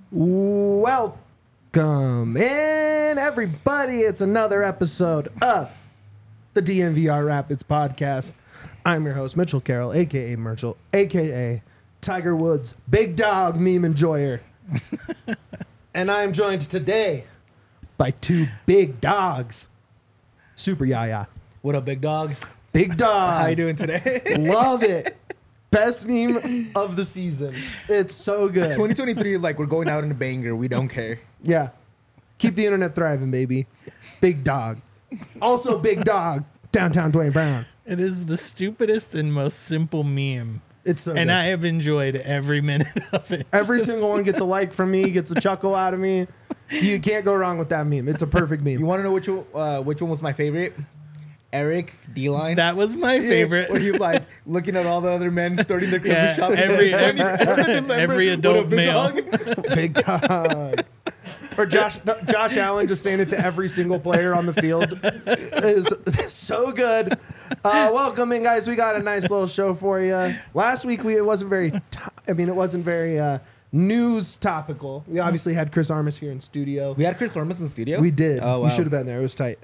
Welcome in, everybody. It's another episode of the DNVR Rapids podcast. I'm your host, Mitchell Carroll, a.k.a. Merchel, a.k.a. Tiger Woods, big dog meme enjoyer. And I'm joined today by two big dogs. Super Yaya. What up, big dog? Big dog. How you doing today? Love it. Best meme of the season. It's so good. 2023 is like we're going out in a banger. We don't care. Yeah. Keep the internet thriving, baby. Big dog. Also big dog. Downtown Dwayne Brown. It is the stupidest and most simple meme. It's so And good. I have enjoyed every minute of it. Every single one gets a like from me, gets a chuckle out of me. You can't go wrong with that meme. It's a perfect meme. You want to know which one was my favorite? Eric D-Line. That was my favorite. Where he's like looking at all the other men starting their coffee Yeah, shop. every adult male. Big dog. Or Josh Allen just saying it to every single player on the field. Is so good. Welcome in, guys. We got a nice little show for you. Last week it wasn't very news topical. We obviously had Chris Armas here in studio. We had Chris Ormus in studio? We did. Oh, wow. You should have been there. It was tight.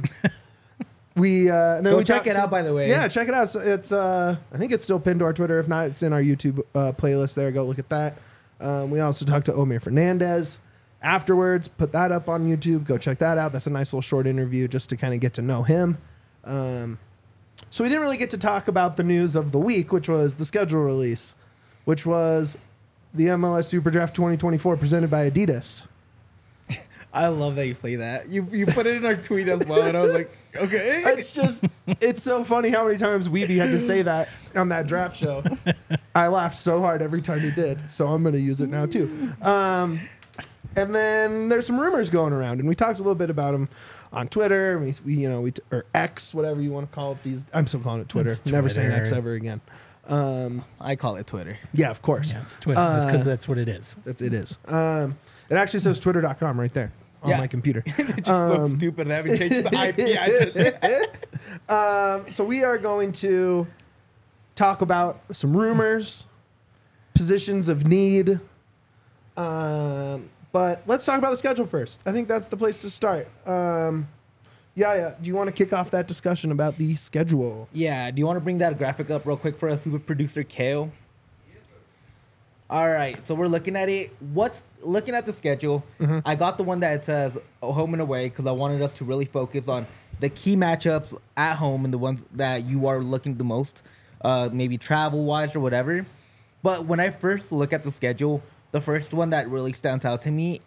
And then Go we check talked it out, by the way. Yeah, check it out. It's I think it's still pinned to our Twitter. If not, it's in our YouTube playlist there. Go look at that. We also talked to Omir Fernandez afterwards. Put that up on YouTube. Go check that out. That's a nice little short interview just to kind of get to know him. So we didn't really get to talk about the news of the week, which was the schedule release, which was the MLS Super Draft 2024 presented by Adidas. I love that you say that. You put it in our tweet as well, and I was like, okay. It's so funny how many times Weeby had to say that on that draft show. I laughed so hard every time he did, so I'm going to use it now too. And then there's some rumors going around, and we talked a little bit about them on Twitter. Or X, whatever you want to call it. I'm still calling it Twitter. It's Never saying Twitter. X ever again. I call it Twitter. Yeah, of course. Yeah, it's Twitter. Because that's what it is. It is. It actually says twitter.com right there on Yeah. my computer. It just looks stupid having changed the IP address. So we are going to talk about some rumors, positions of need. But let's talk about the schedule first. I think that's the place to start. Do you want to kick off that discussion about the schedule? Yeah, do you want to bring that graphic up real quick for us, super producer Kale? All right, so we're looking at it. Looking at the schedule, I got the one that says home and away because I wanted us to really focus on the key matchups at home and the ones that you are looking the most, maybe travel-wise or whatever. But when I first look at the schedule, the first one that really stands out to me,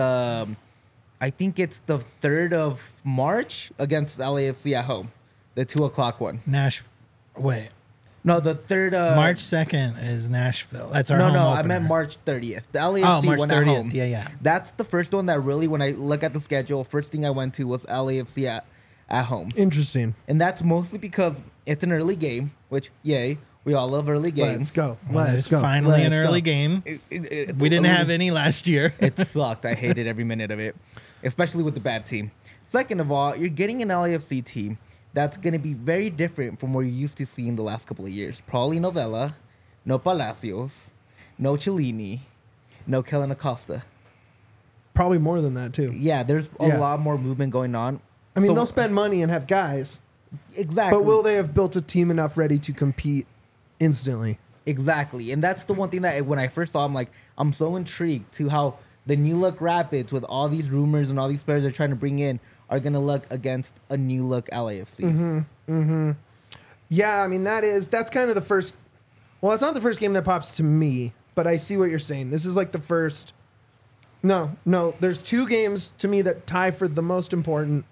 I think it's the 3rd of March against LAFC at home, the 2:00 one. Wait. No, the 3rd of March 2nd is Nashville. That's our No, home no, opener. I meant March 30th. The LAFC March one 30th. at home. Yeah. That's the first one that really, when I look at the schedule, first thing I went to was LAFC at home. Interesting. And that's mostly because it's an early game, which, yay, we all love early games. Let's go. Well, Let's there's go. finally Let's an early go. game. We didn't have any last year. It sucked. I hated every minute of it, especially with the bad team. Second of all, you're getting an LAFC team that's going to be very different from what you're used to seeing the last couple of years. Probably no Vela, no Palacios, no Cellini, no Kellen Acosta. Probably more than that, too. Yeah, there's a lot more movement going on. I mean, So- they'll spend money and have guys, Exactly. but will they have built a team enough ready to compete instantly? Exactly. And that's the one thing that when I first saw, I'm so intrigued to how the new look Rapids, with all these rumors and all these players they're trying to bring in, are going to look against a new look LAFC. Yeah, I mean, that's kind of the first. Well, it's not the first game that pops to me, but I see what you're saying. This is like the first. No, there's two games to me that tie for the most important.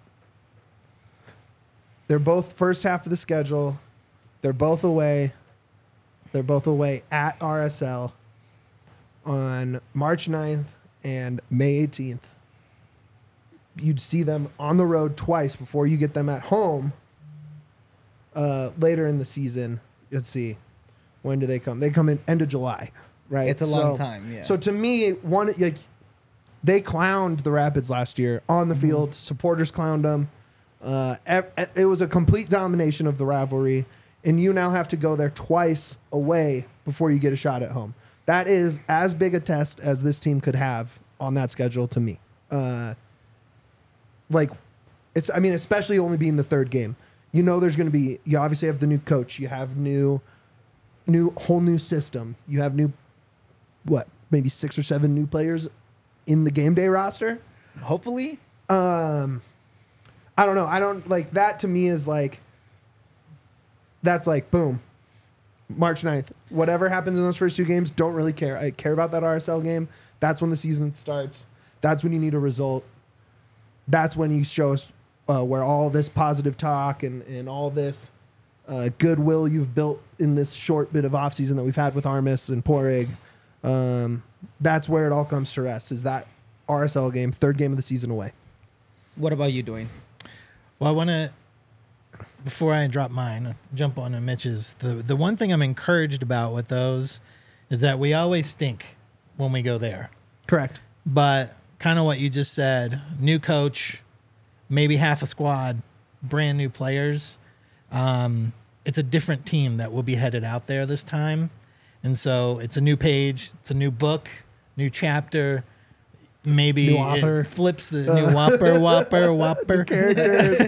They're both first half of the schedule. They're both away. They're both away at RSL on March 9th and May 18th. You'd see them on the road twice before you get them at home later in the season. Let's see. When do they come? They come in end of July, right? It's a long time, yeah. So to me, they clowned the Rapids last year on the field. Supporters clowned them. It was a complete domination of the rivalry, and you now have to go there twice away before you get a shot at home. That is as big a test as this team could have on that schedule to me. Especially only being the third game. You know, there's going to be. You obviously have the new coach. You have whole new system. You have maybe 6 or 7 new players in the game day roster. Hopefully. I don't know. I don't like that. To me is like. That's like boom. March 9th. Whatever happens in those first 2 games, don't really care. I care about that RSL game. That's when the season starts. That's when you need a result. That's when you show us where all this positive talk and all this goodwill you've built in this short bit of offseason that we've had with Armis and Porig. That's where it all comes to rest, is that RSL game, 3rd game of the season away. What about you doing? Well, I want to, before I drop mine, jump on to Mitch's. The one thing I'm encouraged about with those is that we always stink when we go there. Correct. But kind of what you just said, new coach, maybe half a squad, brand new players. It's a different team that will be headed out there this time. And so it's a new page, it's a new book, new chapter. Maybe new author. It flips the new whopper characters.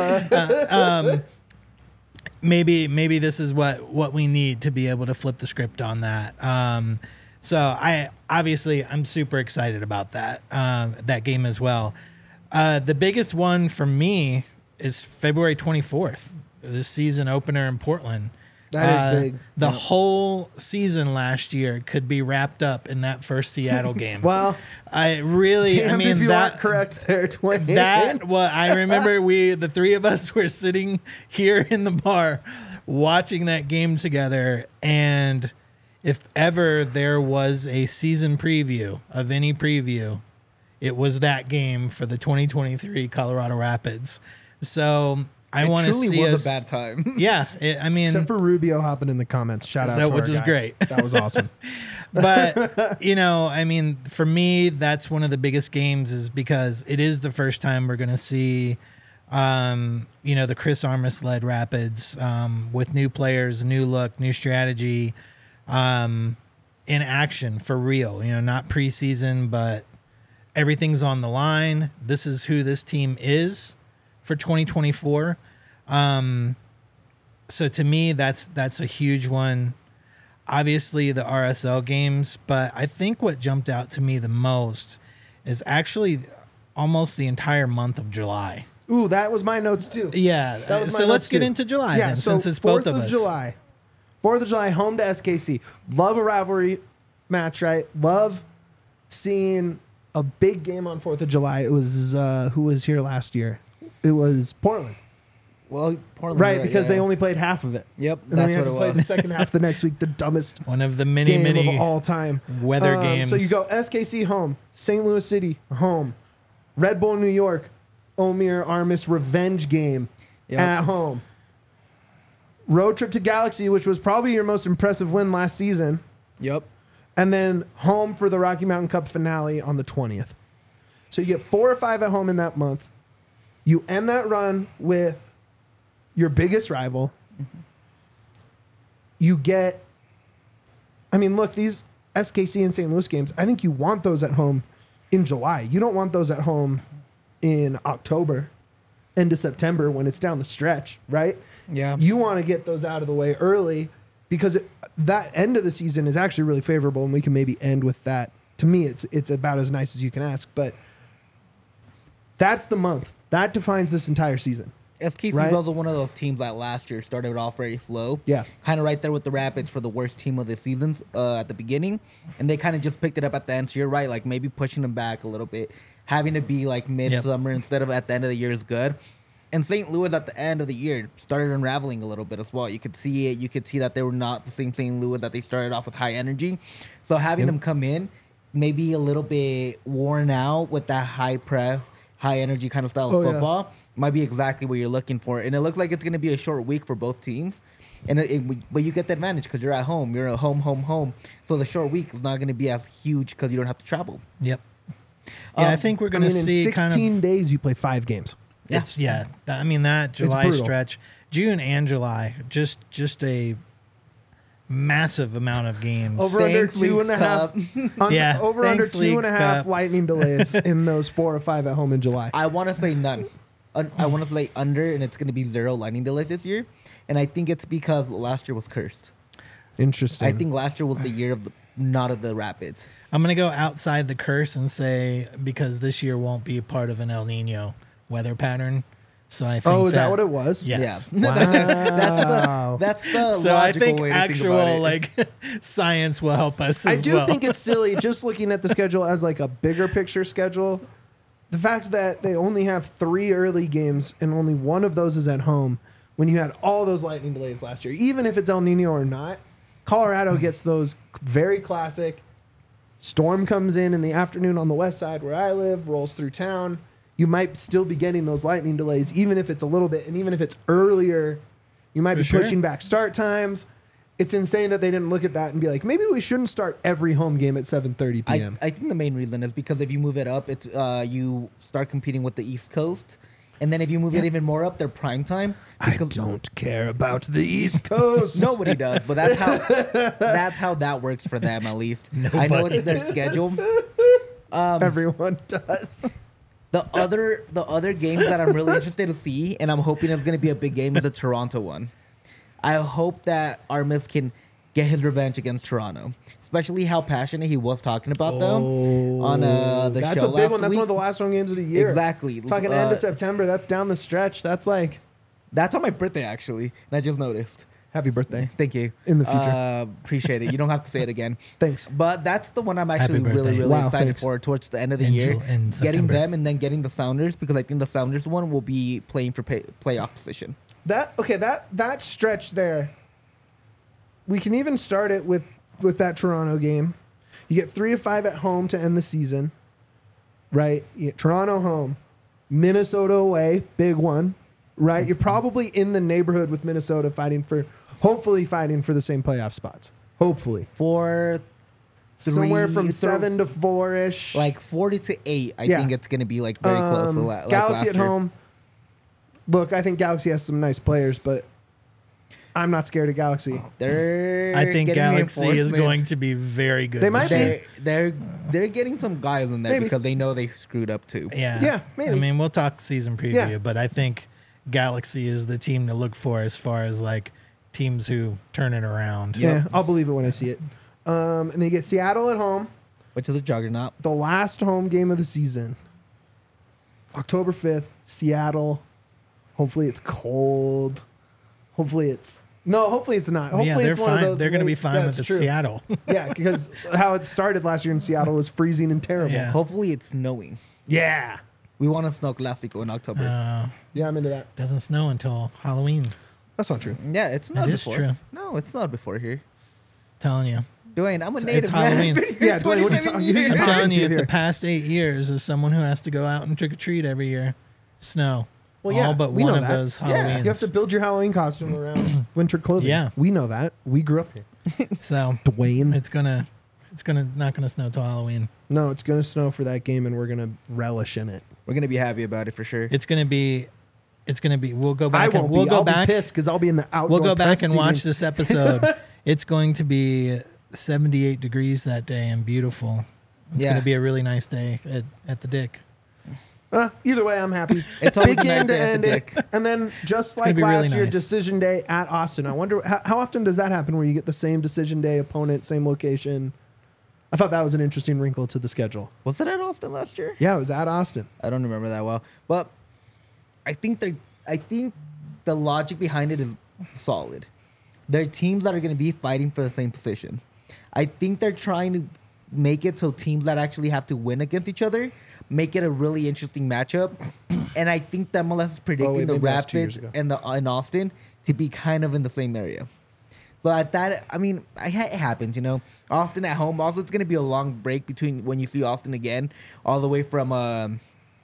Maybe this is what we need to be able to flip the script on that. So I'm super excited about that game as well. The biggest one for me is February 24th, this season opener in Portland. That is big. The whole season last year could be wrapped up in that first Seattle game. Well, if you aren't correct there, Dwayne. I remember the 3 of us were sitting here in the bar watching that game together, and if ever there was a season preview of any preview, it was that game for the 2023 Colorado Rapids. So I want to see It truly was a bad time. Yeah, except for Rubio hopping in the comments. Shout out to which is guy. Great. That was awesome. But for me, that's one of the biggest games, is because it is the first time we're going to see, the Chris Armas led Rapids with new players, new look, new strategy, in action for real. Not preseason, but everything's on the line. This is who this team is for 2024. So to me, that's a huge one. Obviously the RSL games, but I think what jumped out to me the most is actually almost the entire month of July. Ooh, that was my notes too. Yeah. So let's get into July then, since it's both of us. 4th of July, home to SKC. Love a rivalry match, right? Love seeing a big game on 4th of July. It was, who was here last year? It was Portland. Well, Portland, right? Because they only played half of it. Yep, and then we that's had what to it play was. the second half the next week. The dumbest one of the game many of all time weather games. So you go SKC home, St. Louis City home, Red Bull New York, Omir Armis revenge game at home. Road trip to Galaxy, which was probably your most impressive win last season. Yep. And then home for the Rocky Mountain Cup finale on the 20th. So you get 4 or 5 at home in that month. You end that run with your biggest rival. Mm-hmm. You get, look, these SKC and St. Louis games, I think you want those at home in July. You don't want those at home in October, end of September when it's down the stretch, right? Yeah. You want to get those out of the way early because that end of the season is actually really favorable, and we can maybe end with that. To me, it's about as nice as you can ask, but that's the month. That defines this entire season. SKC right? is also one of those teams that last year started off very slow. Yeah. Kind of right there with the Rapids for the worst team of the seasons at the beginning. And they kind of just picked it up at the end. So you're right, like maybe pushing them back a little bit. Having to be like midsummer instead of at the end of the year is good. And St. Louis at the end of the year started unraveling a little bit as well. You could see it. You could see that they were not the same St. Louis, that they started off with high energy. So having them come in, maybe a little bit worn out with that high press, high energy kind of style of football might be exactly what you're looking for. And it looks like it's going to be a short week for both teams. But you get the advantage because you're at home. You're at home. So the short week is not going to be as huge because you don't have to travel. Yep. Yeah, I think we're going to see in 16 days you play 5 games. It's that July stretch, June and July, just a massive amount of games. Over under Thanks, two and Leagues a half. Cup. Yeah, Over under thanks, 2.5 Leagues Cup. lightning delays in those 4 or 5 at home in July. I want to say none. I want to say under, and it's going to be 0 lightning delays this year. And I think it's because last year was cursed. Interesting. I think last year was the year of not of the Rapids. I'm going to go outside the curse and say because this year won't be a part of an El Nino weather pattern. So I think Oh, is that what it was? Yes. Yeah. Wow. That's the So I logical think way to think actual about it. like science will help us I as do well. think it's silly just looking at the schedule as like a bigger picture schedule. The fact that they only have 3 early games and only one of those is at home when you had all those lightning delays last year. Even if it's El Nino or not, Colorado gets those very classic. Storm comes in the afternoon on the west side where I live, rolls through town. You might still be getting those lightning delays, even if it's a little bit, and even if it's earlier, you might For be sure. pushing back start times. It's insane that they didn't look at that and be like, maybe we shouldn't start every home game at 7:30 p.m. I think the main reason is because if you move it up, it's you start competing with the East Coast, and then if you move it even more up, they're prime time. I because don't care about the East Coast. Nobody does, but that's how that works for them at least. I know it's their schedule. Everyone does. The other games that I'm really interested to see, and I'm hoping it's going to be a big game, is the Toronto one. I hope that Armis can get his revenge against Toronto, especially how passionate he was talking about them on the That's show a big last one. That's week. one of the last home games of the year. Exactly. Talking end of September. That's down the stretch. That's like That's on my birthday, actually, and I just noticed. happy birthday. Thank you. In the future. Appreciate it. You don't have to say it again. Thanks. But that's the one I'm actually Happy really, birthday. really Wow, excited thanks. for towards the end of the In year. in Getting September. them and then getting the Sounders, because I think the Sounders one will be playing for playoff position. That stretch there. We can even start it with that Toronto game. You get 3 of 5 at home to end the season. Right? You get Toronto home, Minnesota away, big one. Right? You're probably in the neighborhood with Minnesota hopefully fighting for the same playoff spots. Hopefully. For Somewhere from 7 to 4-ish. like 40 to 8, I Yeah. think it's going to be like very close. To like Galaxy last at year. home. Look, I think Galaxy has some nice players, but I'm not scared of Galaxy. They're I think getting Galaxy is reinforcements. going to be very good. They might this be. year. They're getting some guys in there Maybe. because they know they screwed up too. Yeah. Yeah, maybe. I mean, we'll talk season preview, Yeah. but I think Galaxy is the team to look for as far as like teams who turn it around. Yep. Yeah, I'll believe it when I see it. And then you get Seattle at home, Which is a juggernaut. the last home game of the season. October 5th, Seattle. Hopefully it's cold. Hopefully it's not. Hopefully Yeah, they're it's one of fine. those They're going to be late- fine That's with the true. Seattle. Yeah, because how it started last year in Seattle was freezing and terrible. Yeah. Hopefully it's snowing. Yeah. We want a snow classico in October. Yeah, I'm into that. Doesn't snow until Halloween. That's not true. Yeah, it's not It is before. true. No, it's not before here. Telling you. Dwayne, I'm a It's native man. Halloween. I've been here Yeah, Dwayne, what are you 27 talking- years. you're I'm talking telling to you, you here. the past 8 years, as someone who has to go out and trick or treat every year, snow. Well, yeah, all but we one know of that. those Yeah, Halloweens. you have to build your Halloween costume around winter clothing. Yeah. We know that. We grew up here. So Dwayne. it's not gonna snow till Halloween. No, it's going to snow for that game, and we're going to relish in it. We're gonna be happy about it for sure. It's gonna be. We'll go I back. won't And we'll be. go I'll back. be pissed because I'll be in the outdoor We'll go back press and watch seating. this episode. It's going to be 78 degrees that day and beautiful. It's Yeah. going to be a really nice day at the Dick. Either way, I'm happy. It's always Big a nice game to day at end the it. Dick. And then just gonna like be last really year, nice. decision day at Austin. I wonder how often does that happen where you get the same decision day opponent, same location? I thought that was an interesting wrinkle to the schedule. Was it at Austin last year? Yeah, it was at Austin. I don't remember that well, but I think the logic behind it is solid. There are teams that are going to be fighting for the same position. I think they're trying to make it so teams that actually have to win against each other make it a really interesting matchup. And I think that MLS is predicting the maybe that's 2 years Rapids ago. and in Austin to be kind of in the same area. So at that, I mean, it happens, you know. Austin at home. Also, it's going to be a long break between when you see Austin again, all the way from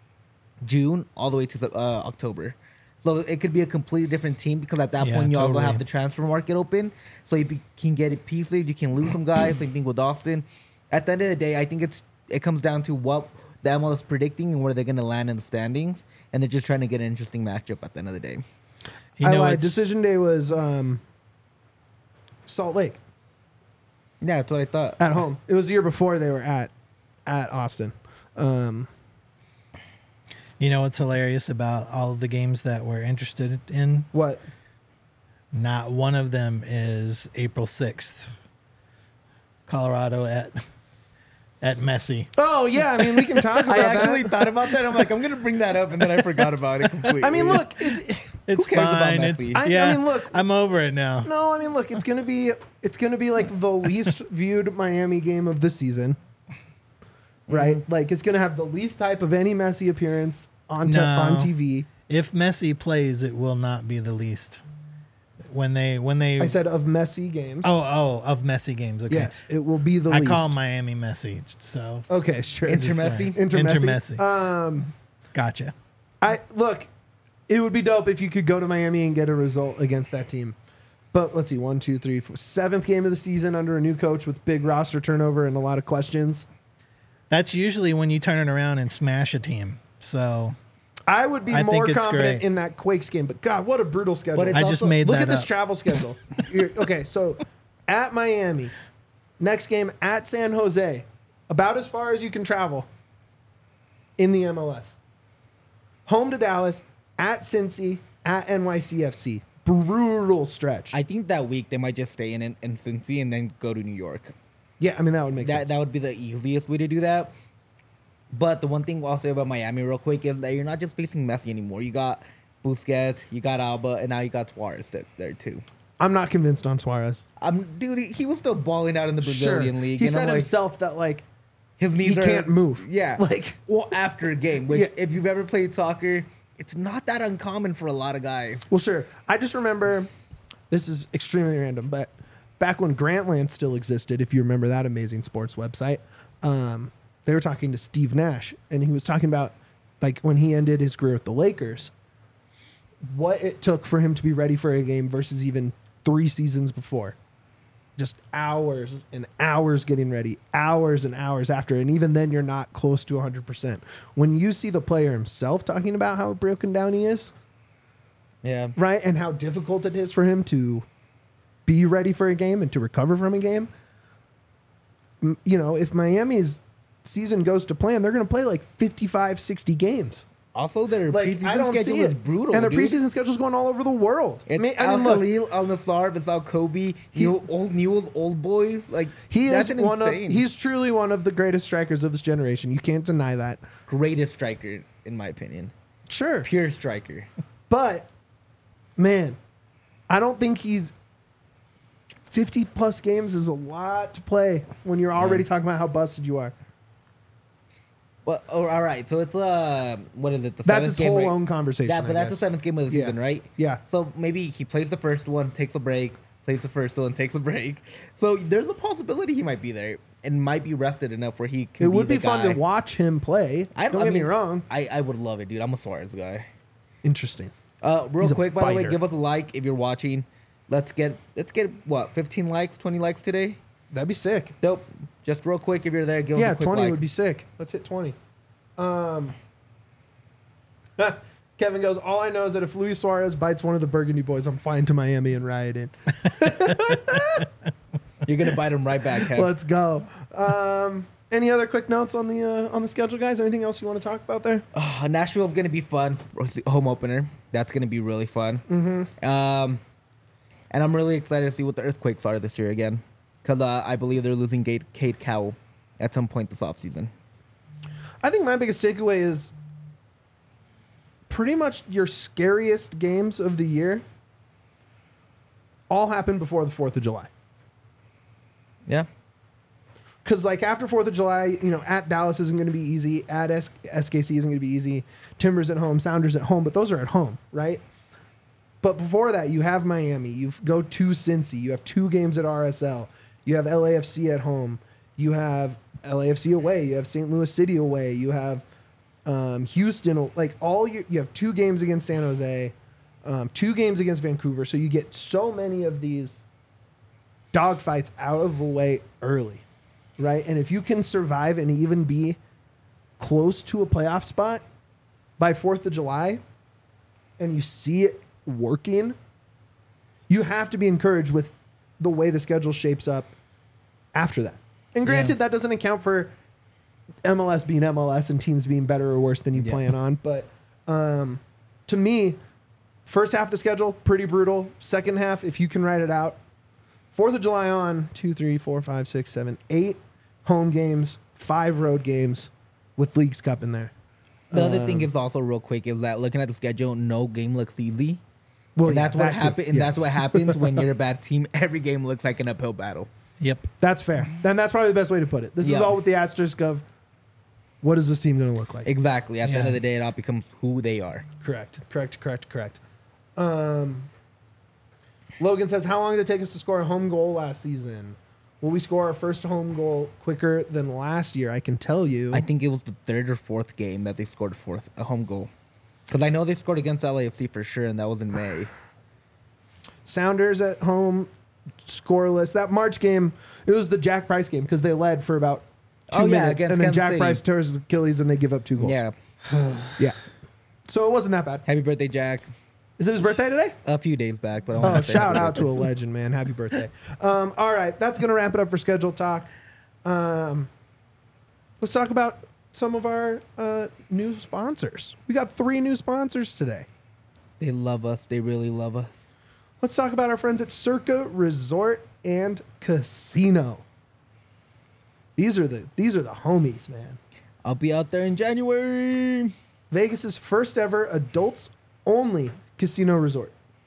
June all the way to October. So it could be a completely different team because at that Yeah, point you also totally. have the transfer market open. So you can get it pieces. You can lose some guys. Same thing with Austin. At the end of the day, I think it comes down to what the MLS is predicting and where they're going to land in the standings. And they're just trying to get an interesting matchup at the end of the day. You I know, lied. it's Decision day was Salt Lake. Yeah, that's what I thought. at home. It was the year before they were at Austin. You know what's hilarious about all of the games that we're interested in? What? Not one of them is April 6th. Colorado at Messi. Oh yeah, I mean we can talk about I actually that. thought about that. I'm like, I'm gonna bring that up, and then I forgot about it completely. I mean, look, It's cares about fine. Messi? I mean, look. I'm over it now. no, I mean look, it's gonna be like the least viewed Miami game of the season, right? Like it's gonna have the least hype of any Messi appearance on No. on TV. If Messi plays, it will not be the least. When they I said of Messi games. of Messi games. Okay. Yes, it will be the I least. call Miami Messi. So Okay, sure. Inter just Messi? saying. Inter Inter Messi. Messi. Gotcha. I look, it would be dope if you could go to Miami and get a result against that team. But let's see, 1, 2, 3, 4, 7th game of the season under a new coach with big roster turnover and a lot of questions. That's usually when you turn it around and smash a team. So I would be I more think it's confident great. in that Quakes game. But God, what a brutal schedule! But it's I just also- made Look that at this up. travel schedule. Okay, so at Miami, next game at San Jose, about as far as you can travel in the MLS. Home to Dallas, at Cincy, at NYCFC. Brutal stretch. I think that week they might just stay in Cincy and then go to New York. Yeah, I mean that would make sense. That would be the easiest way to do that. But the one thing I'll say about Miami real quick is that you're not just facing Messi anymore. You got Busquets, you got Alba, and now you got Suarez there too. I'm not convinced on Suarez. Dude, he was still balling out in the Brazilian league. He and said I'm like, himself that like his knees he are, can't move. Yeah, Like well, after a game, which Yeah. if you've ever played soccer, it's not that uncommon for a lot of guys. well, sure. I just remember this is extremely random, but back when Grantland still existed, if you remember that amazing sports website, they were talking to Steve Nash, and he was talking about like when he ended his career with the Lakers, what it took for him to be ready for a game versus even 3 seasons before. Just hours and hours getting ready, hours and hours after, and even then you're not close to 100%. When you see the player himself talking about how broken down he is, Yeah, right, and how difficult it is for him to be ready for a game and to recover from a game, you know, if Miami's season goes to plan, they're going to play like 55, 60 games. also their Like, I preseason don't see schedule is it. brutal, And their dude. preseason schedule's going all over the world. It's I Al mean, look, Khalil, Al Nassr, Vassal Kobe, Newell's old boys. Like he that's is insane. he's truly one of the greatest strikers of this generation. You can't deny that. greatest striker in my opinion, Sure. pure striker. But man, I don't think he's 50 plus games is a lot to play when you're already talking about how busted you are. Well, oh, all right. So it's what is it? The That's seventh its game, whole right? own conversation. Yeah, I but that's the guess. 7th game of the Yeah. season, right? Yeah. So maybe he plays the first one, takes a break, plays the first one, takes a break. So there's a possibility he might be there and might be rested enough where he can. It would the be fun guy. to watch him play. Don't get me wrong. I would love it, dude. I'm a Suarez guy. Interesting. Real He's a quick, by the way, biter. give us a like if you're watching. Let's get what 15 likes, 20 likes today. That'd be sick. Nope. Just real quick, if you're there, give us Yeah, a quick 20 like. would be sick. Let's hit 20. Kevin goes, all I know is that if Luis Suarez bites one of the Burgundy boys, I'm flying to Miami and riot in. You're gonna bite him right back, Kev. Let's go. Any other quick notes on the schedule, guys? Anything else you want to talk about there? Nashville's gonna be fun. Home opener. That's gonna be really fun. Mm-hmm. And I'm really excited to see what the Earthquakes are this year again, because I believe they're losing Kate Cowell at some point this offseason. I think my biggest takeaway is pretty much your scariest games of the year all happen before the 4th of July. Yeah. Because, like, after 4th of July, you know, at Dallas isn't going to be easy. At SKC isn't going to be easy. Timbers at home, Sounders at home, but those are at home, right? But before that, you have Miami. You go to Cincy. You have 2 games at RSL. You have LAFC at home. You have LAFC away. You have St. Louis City away. You have Houston. Like, you have 2 games against San Jose, 2 games against Vancouver. So you get so many of these dogfights out of the way early. Right? And if you can survive and even be close to a playoff spot by 4th of July and you see it working, you have to be encouraged with the way the schedule shapes up after that. And granted, that doesn't account for MLS being MLS and teams being better or worse than you plan on. But to me, first half of the schedule, pretty brutal. Second half, if you can write it out, 4th of July on 2, 3, 4, 5, 6, 7, 8 home games, 5 road games with Leagues Cup in there. The other thing is also real quick is that looking at the schedule, no game looks easy. Well, And that's what that too. happens. And that's what happens when you're a bad team. Every game looks like an uphill battle. Yep. That's fair. Then that's probably the best way to put it. This is all with the asterisk of what is this team going to look like? Exactly. At the end Yeah. of the day, it all becomes who they are. Correct. Logan says, how long did it take us to score a home goal last season? Will we score our first home goal quicker than last year? I can tell you. I think it was the 3rd or 4th game that they scored a home goal. Because I know they scored against LAFC for sure, and that was in May. Sounders at home, scoreless. That March game, it was the Jack Price game because they led for about 2 minutes. against And then Kansas Jack City. Price tears his Achilles and they give up 2 goals. Yeah. Yeah. So it wasn't that bad. Happy birthday, Jack. Is it his birthday today? A few days back, but I Oh, wanna say shout happy out to a birthday. legend, man. Happy birthday. All right. That's going to wrap it up for schedule talk. Let's talk about some of our new sponsors. We got 3 new sponsors today. They love us. They really love us. Let's talk about our friends at Circa Resort and Casino. These are the homies, man. I'll be out there in January. Vegas's first ever adults only casino resort.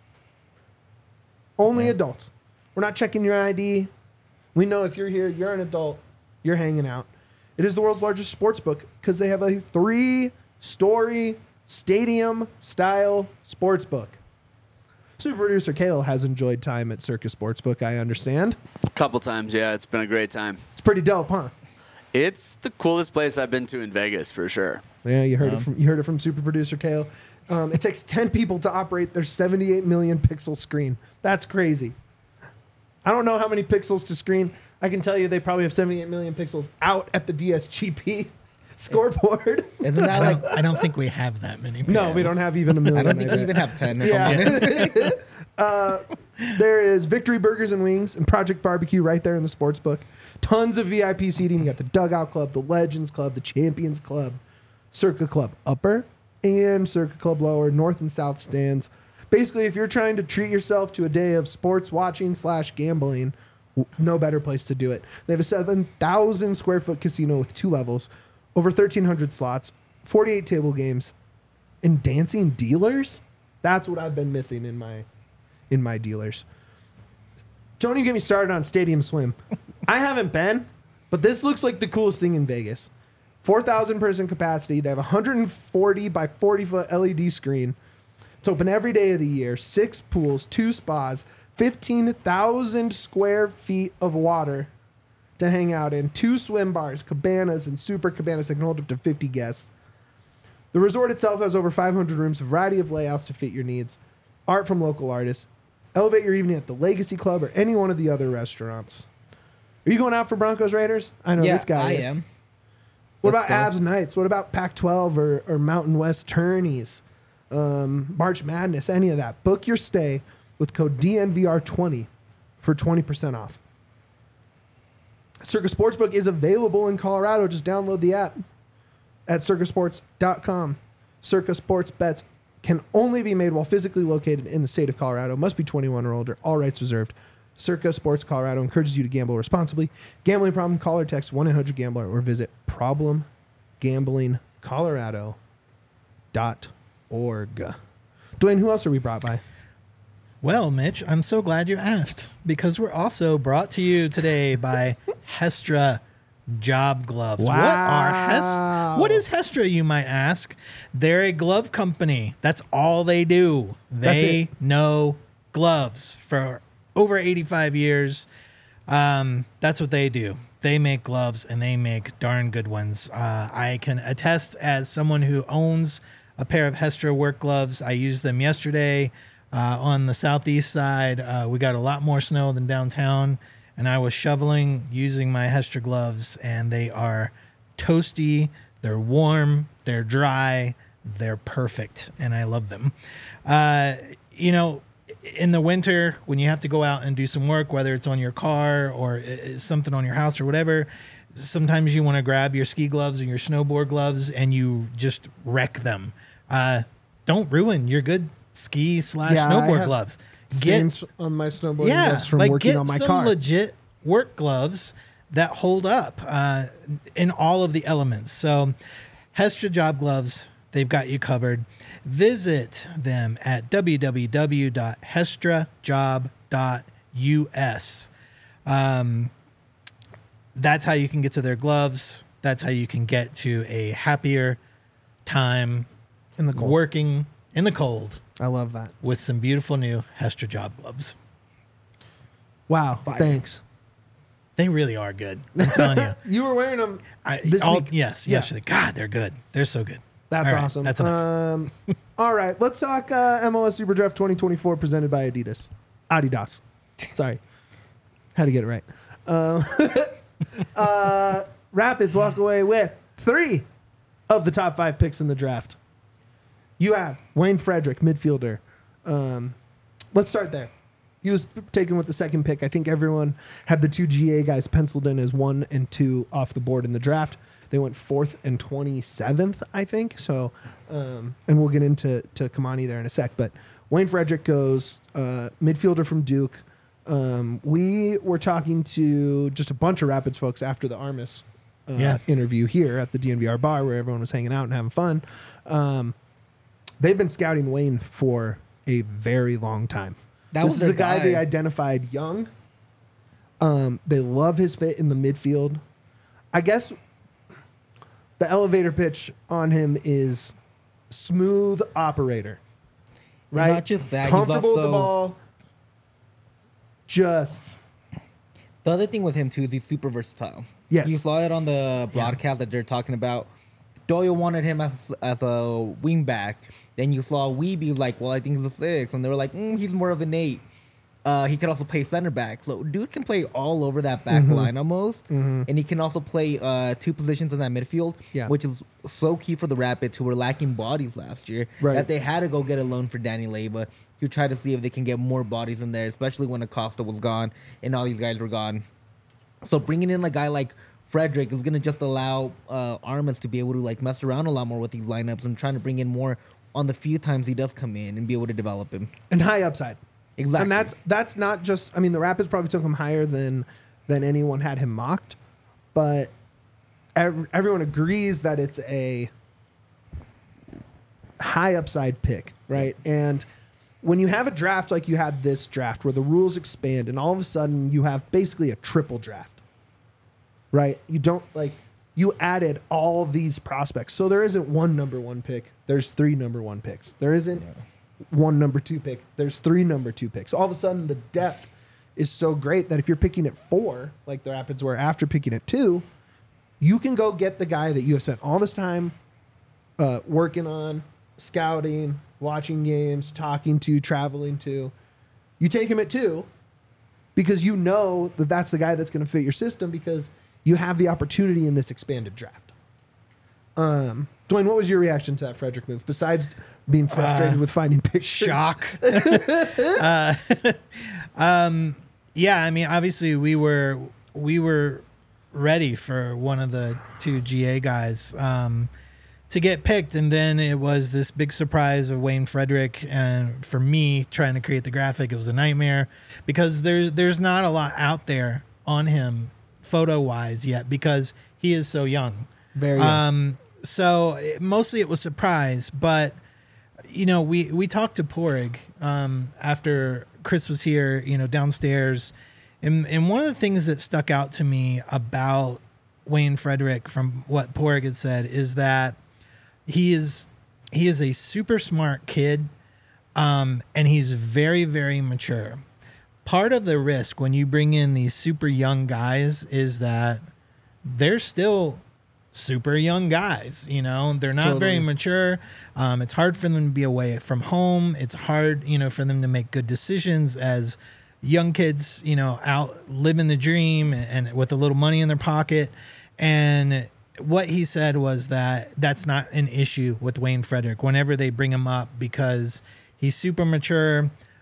Only adults. We're not checking your ID. We know if you're here, you're an adult, you're hanging out. It is the world's largest sports book because they have a 3-story stadium-style sports book. Super producer Kale has enjoyed time at Circus Sportsbook, I understand. A couple times, yeah. It's been a great time. It's pretty dope, huh? It's the coolest place I've been to in Vegas, for sure. Yeah, you heard it from super producer Kale. It takes 10 people to operate their 78 million pixel screen. That's crazy. I don't know how many pixels to screen. I can tell you they probably have 78 million pixels out at the DSGP scoreboard. Isn't that like? I don't think we have that many. No, pixels. we don't have even a million. I don't think bet. you even have 10. if I'm honest. Yeah. There is Victory Burgers and Wings and Project Barbecue right there in the sports book. Tons of VIP seating. You got the Dugout Club, the Legends Club, the Champions Club, Circa Club Upper, and Circa Club Lower, North and South stands. Basically, if you're trying to treat yourself to a day of sports watching / gambling, no better place to do it. They have a 7,000 square foot casino with 2 levels, over 1,300 slots, 48 table games, and dancing dealers. That's what I've been missing in my dealers. Don't even get me started on Stadium Swim. I haven't been, but this looks like the coolest thing in Vegas. 4,000 person capacity. They have a 140 by 40 foot LED screen. It's open every day of the year. 6 pools, 2 spas, 15,000 square feet of water to hang out in, 2 swim bars, cabanas, and super cabanas that can hold up to 50 guests. The resort itself has over 500 rooms, a variety of layouts to fit your needs, art from local artists. Elevate your evening at the Legacy Club or any one of the other restaurants. Are you going out for Broncos Raiders? I know Yeah, this guy I is. am. What Let's about go. Avs Nights? What about Pac-12 or Mountain West Tourneys? March Madness, any of that. Book your stay with code DNVR20 for 20% off. Circa Sportsbook is available in Colorado. Just download the app at circasports.com. Circa Sports bets can only be made while physically located in the state of Colorado. Must be 21 or older. All rights reserved. Circa Sports Colorado encourages you to gamble responsibly. Gambling problem? Call or text 1-800-GAMBLER or visit problemgamblingcolorado.org. Dwayne, who else are we brought by? Well, Mitch, I'm so glad you asked because we're also brought to you today by Hestra Job Gloves. Wow. What is Hestra, you might ask? They're a glove company. That's all they do. That's They it. know gloves for over 85 years. That's what they do. They make gloves and they make darn good ones. I can attest as someone who owns a pair of Hestra work gloves. I used them yesterday on the southeast side. We got a lot more snow than downtown, and I was shoveling using my Hestra gloves, and they are toasty, they're warm, they're dry, they're perfect, and I love them. in the winter, when you have to go out and do some work, whether it's on your car or something on your house or whatever, sometimes you want to grab your ski gloves and your snowboard gloves and you just wreck them. Don't ruin your good ski / snowboard gloves. Stains on my snowboard gloves from working on my get car. some legit work gloves that hold up in all of the elements. So Hestra Job Gloves, they've got you covered. Visit them at www.hestrajob.us. That's how you can get to their gloves. That's how you can get to a happier time In the cold. working in the cold I love that. with some beautiful new Hestra Job Gloves. Wow. Fire. Thanks. They really are good. I'm telling you. You were wearing them this week. Yes, Yeah. yesterday. God, they're good. They're so good. That's All right, awesome. That's enough. All right, let's talk MLS Super Draft 2024 presented by Adidas. Sorry, had to get it right. Rapids walk away with 3 of the top 5 picks in the draft. You have Wayne Frederick, midfielder. Let's start there. He was taken with the second pick. I think everyone had the 2 GA guys penciled in as 1 and 2 off the board in the draft. They went 4th and 27th, I think. So, and we'll get into Kamani there in a sec. But Wayne Frederick goes midfielder from Duke. We were talking to just a bunch of Rapids folks after the Armis interview here at the DNVR bar where everyone was hanging out and having fun. They've been scouting Wayne for a very long time. This is a guy they identified young. They love his fit in the midfield. I guess the elevator pitch on him is smooth operator, right? And not just that, comfortable he's with the also, ball. Just the other thing with him too is he's super versatile. Yes. You saw it on the broadcast that they're talking about. Doyle wanted him as a wing back. Then you saw Weeby like, well, I think he's a 6, and they were like, he's more of an 8. He could also play center back. So dude can play all over that back line almost. And he can also play 2 positions in that midfield, which is so key for the Rapids, who were lacking bodies last year. Right. That they had to go get a loan for Danny Leyva to try to see if they can get more bodies in there, especially when Acosta was gone and all these guys were gone. So bringing in a guy like Frederick is going to just allow Armas to be able to like mess around a lot more with these lineups and trying to bring in more on the few times he does come in and be able to develop him. and high upside. Exactly. And that's not just. I mean, the Rapids probably took him higher than anyone had him mocked, but everyone agrees that it's a high upside pick, right? And when you have a draft like you had this draft, where the rules expand, and all of a sudden you have basically a triple draft, right? You don't like. You added all of these prospects. So there isn't one number 1 pick. There's 3 number 1 picks. There isn't one number 2 pick. There's 3 number 2 picks. All of a sudden, the depth is so great that if you're picking at 4, like the Rapids were after picking at 2, you can go get the guy that you have spent all this time working on, scouting, watching games, talking to, traveling to. You take him at 2 because you know that that's the guy that's going to fit your system because you have the opportunity in this expanded draft. Dwayne, what was your reaction to that Frederick move besides being frustrated with finding pictures? Shock. Yeah, I mean, obviously we were ready for one of the 2 GA guys to get picked, and then it was this big surprise of Wayne Frederick. And for me, trying to create the graphic, it was a nightmare because there's not a lot out there on him photo wise yet because he is so young. Very young. So mostly it was surprise, but you know, we talked to Porig after Chris was here, you know, downstairs, and one of the things that stuck out to me about Wayne Frederick from what Porig had said is that he is a super smart kid, and he's very, very mature. Part of the risk when you bring in these super young guys is that they're still super young guys, you know, they're not very mature. It's hard for them to be away from home. It's hard, you know, for them to make good decisions as young kids, you know, out living the dream and with a little money in their pocket. And what he said was that that's not an issue with Wayne Frederick whenever they bring him up because he's super mature.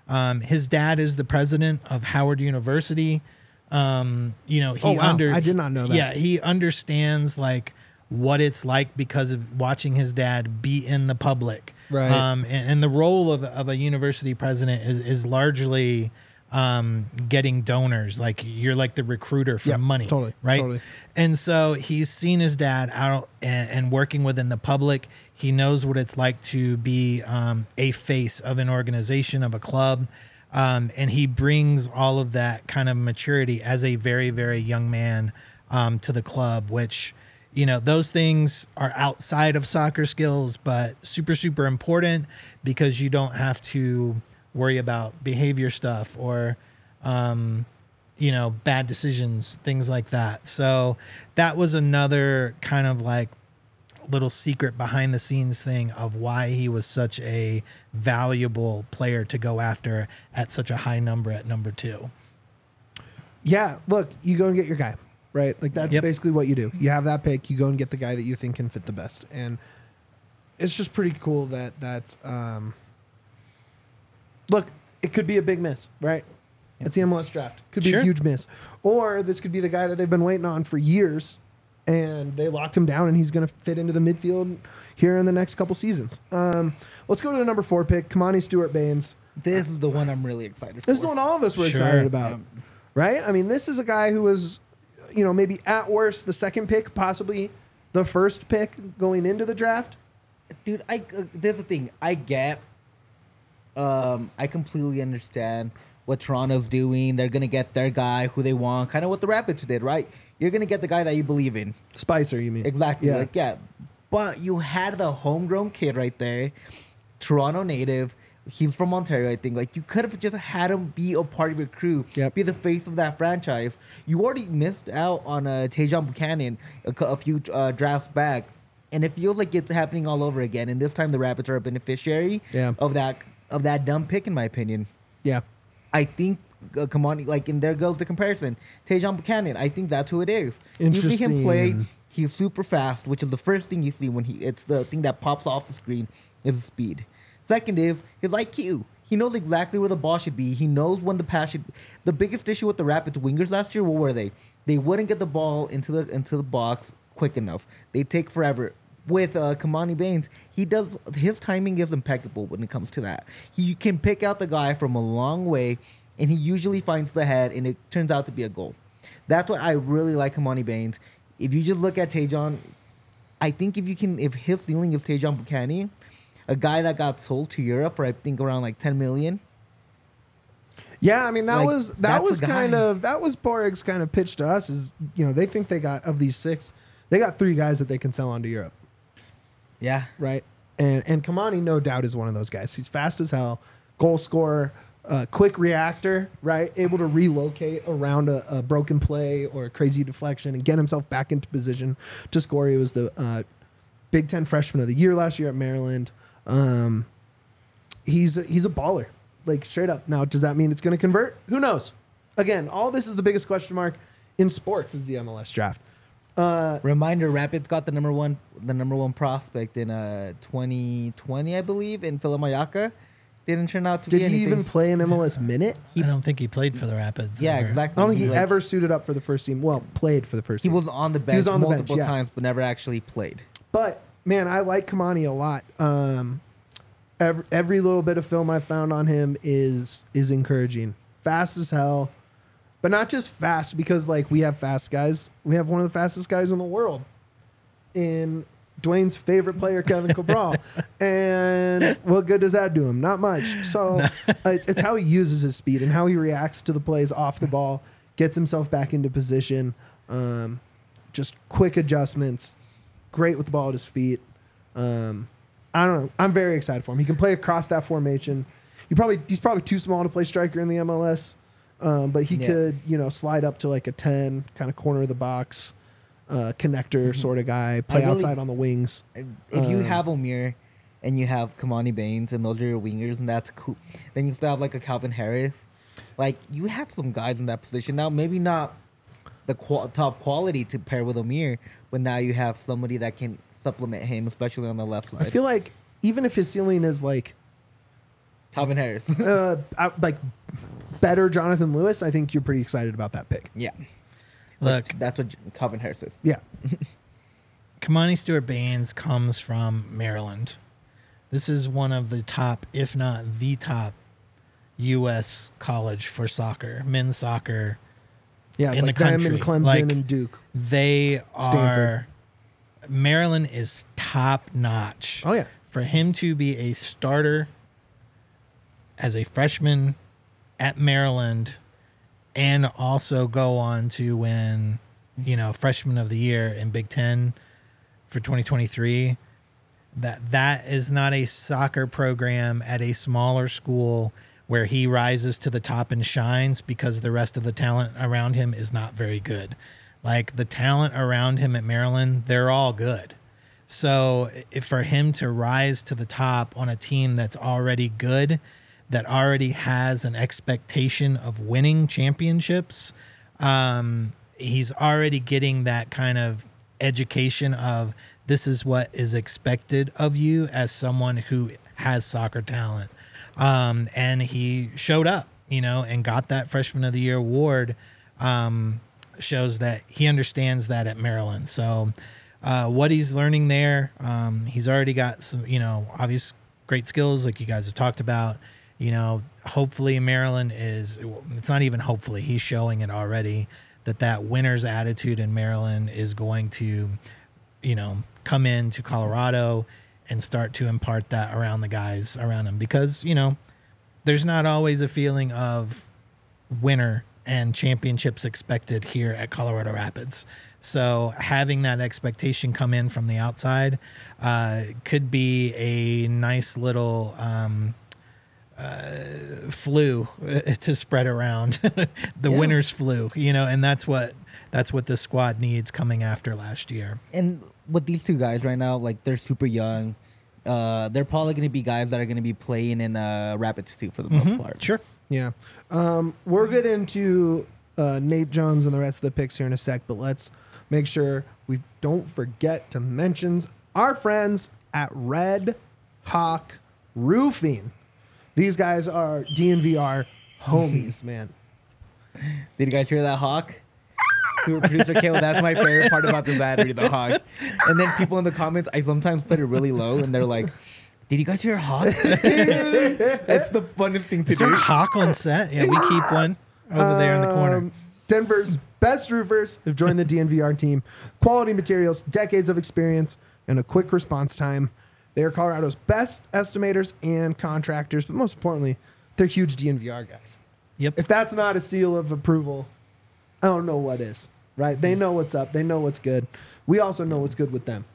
His dad is the president of Howard University. He I did not know that. Yeah, he understands like what it's like because of watching his dad be in the public. Right. And the role of a university president is largely getting donors. Like you're like the recruiter for money. Totally. Right. Totally. And so he's seen his dad out and working within the public. He knows what it's like to be a face of an organization, of a club. And he brings all of that kind of maturity as a very, very young man to the club, which, those things are outside of soccer skills, but super, super important because you don't have to worry about behavior stuff or, bad decisions, things like that. So that was another kind of like little secret behind the scenes thing of why he was such a valuable player to go after at such a high number at number 2. Yeah, look, you go and get your guy, right? Like that's basically what you do. You have that pick, you go and get the guy that you think can fit the best. And it's just pretty cool that's look, it could be a big miss, right? It's the MLS draft. Could be a huge miss. Or this could be the guy that they've been waiting on for years and they locked him down and he's going to fit into the midfield here in the next couple seasons. Let's go to the number 4 pick, Kamani Stewart-Baines. This is the one I'm really excited for. This is the one all of us were excited about, right? I mean, this is a guy who was, maybe at worst the second pick, possibly the first pick going into the draft. Dude, there's the thing. I completely understand what Toronto's doing. They're going to get their guy who they want, kind of what the Rapids did, right? You're going to get the guy that you believe in. Spicer, you mean? Exactly. Yeah. But you had the homegrown kid right there, Toronto native. He's from Ontario, I think. Like, you could have just had him be a part of your crew, be the face of that franchise. You already missed out on Tejan Buchanan a few drafts back, and it feels like it's happening all over again. And this time, the Rapids are a beneficiary of that dumb pick, in my opinion. Yeah. I think, come on, like, and there goes the comparison. Tejan Buchanan, I think that's who it is. You see him play, he's super fast, which is the first thing you see when it's the thing that pops off the screen is the speed. Second is his IQ. He knows exactly where the ball should be. He knows when the pass should. The biggest issue with the Rapids wingers last year, what were they? They wouldn't get the ball into the box quick enough. They take forever. With Kamani Baines, his timing is impeccable when it comes to that. He can pick out the guy from a long way, and he usually finds the head, and it turns out to be a goal. That's why I really like Kamani Baines. If you just look at Tejan, I think if his ceiling is Tejan Buchanan, a guy that got sold to Europe for I think around like 10 million. Yeah, I mean that was Borg's kind of pitch to us is they think they got of these 6, they got 3 guys that they can sell on to Europe. Yeah. Right. And Kamani, no doubt, is one of those guys. He's fast as hell, goal scorer, quick reactor, right? Able to relocate around a broken play or a crazy deflection and get himself back into position to score. He was the Big Ten Freshman of the Year last year at Maryland. He's a baller, like straight up. Now, does that mean it's going to convert? Who knows? Again, all this is the biggest question mark in sports is the MLS draft. Reminder: Rapids got the number one prospect in 2020, I believe, in Philip Mayaka. Didn't turn out to be anything. Did he even play an MLS minute? I don't think he played for the Rapids. Yeah, ever. exactly. I don't think he ever suited up for the first team. Well, played for the first team. He was on the bench multiple times, but never actually played. But man, I like Kamani a lot. Every little bit of film I found on him is encouraging. Fast as hell. But not just fast because like we have fast guys. We have one of the fastest guys in the world in Dwayne's favorite player, Kevin Cabral. And what good does that do him? Not much. So it's how he uses his speed and how he reacts to the plays off the ball, gets himself back into position, just quick adjustments, great with the ball at his feet. I don't know. I'm very excited for him. He can play across that formation. He's probably too small to play striker in the MLS. But he could, slide up to like a 10, kind of corner of the box, connector sort of guy, play outside on the wings. If you have Omir and you have Kamani Baines and those are your wingers and that's cool, then you still have like a Calvin Harris. Like, you have some guys in that position. Now, maybe not the top quality to pair with Omir, but now you have somebody that can supplement him, especially on the left side. I feel like even if his ceiling is like Calvin Harris. Like better Jonathan Lewis. I think you're pretty excited about that pick. Yeah. Look, That's what Calvin Harris is. Yeah. Kamani Stewart-Baines comes from Maryland. This is one of the top, if not the top, U.S. college for soccer, men's soccer. Yeah, it's In like the them country. and Clemson Like, and Duke. They Stanford. are. Maryland is top notch. Oh yeah. For him to be a starter as a freshman at Maryland and also go on to win, freshman of the year in Big Ten for 2023, that is not a soccer program at a smaller school where he rises to the top and shines because the rest of the talent around him is not very good. Like the talent around him at Maryland, they're all good. So for him to rise to the top on a team that's already good, that already has an expectation of winning championships, he's already getting that kind of education of this is what is expected of you as someone who has soccer talent. And he showed up, and got that Freshman of the Year award. Shows that he understands that at Maryland. So what he's learning there, he's already got some, obvious great skills like you guys have talked about. Hopefully Maryland it's not even hopefully, he's showing it already that winner's attitude in Maryland is going to, come into Colorado and start to impart that around the guys around him because, there's not always a feeling of winner and championships expected here at Colorado Rapids. So having that expectation come in from the outside could be a nice little flu to spread around the winner's flu, and that's what this squad needs coming after last year. And with these two guys right now, like they're super young. They're probably going to be guys that are going to be playing in Rapids too for the most part. Sure. Yeah. We'll get into Nate Jones and the rest of the picks here in a sec, but let's make sure we don't forget to mention our friends at Red Hawk Roofing. These guys are DNVR homies, man. Did you guys hear that hawk? Producer Kale, that's my favorite part about the battery, the hawk. And then people in the comments, I sometimes put it really low, and they're like, "Did you guys hear a hawk?" That's the funnest thing to Is there do. a hawk on set? Yeah, we keep one over there in the corner. Denver's best roofers have joined the DNVR team. Quality materials, decades of experience, and a quick response time. They are Colorado's best estimators and contractors, but most importantly, they're huge DNVR guys. Yep. If that's not a seal of approval, I don't know what is, right? They know what's up. They know what's good. We also know what's good with them.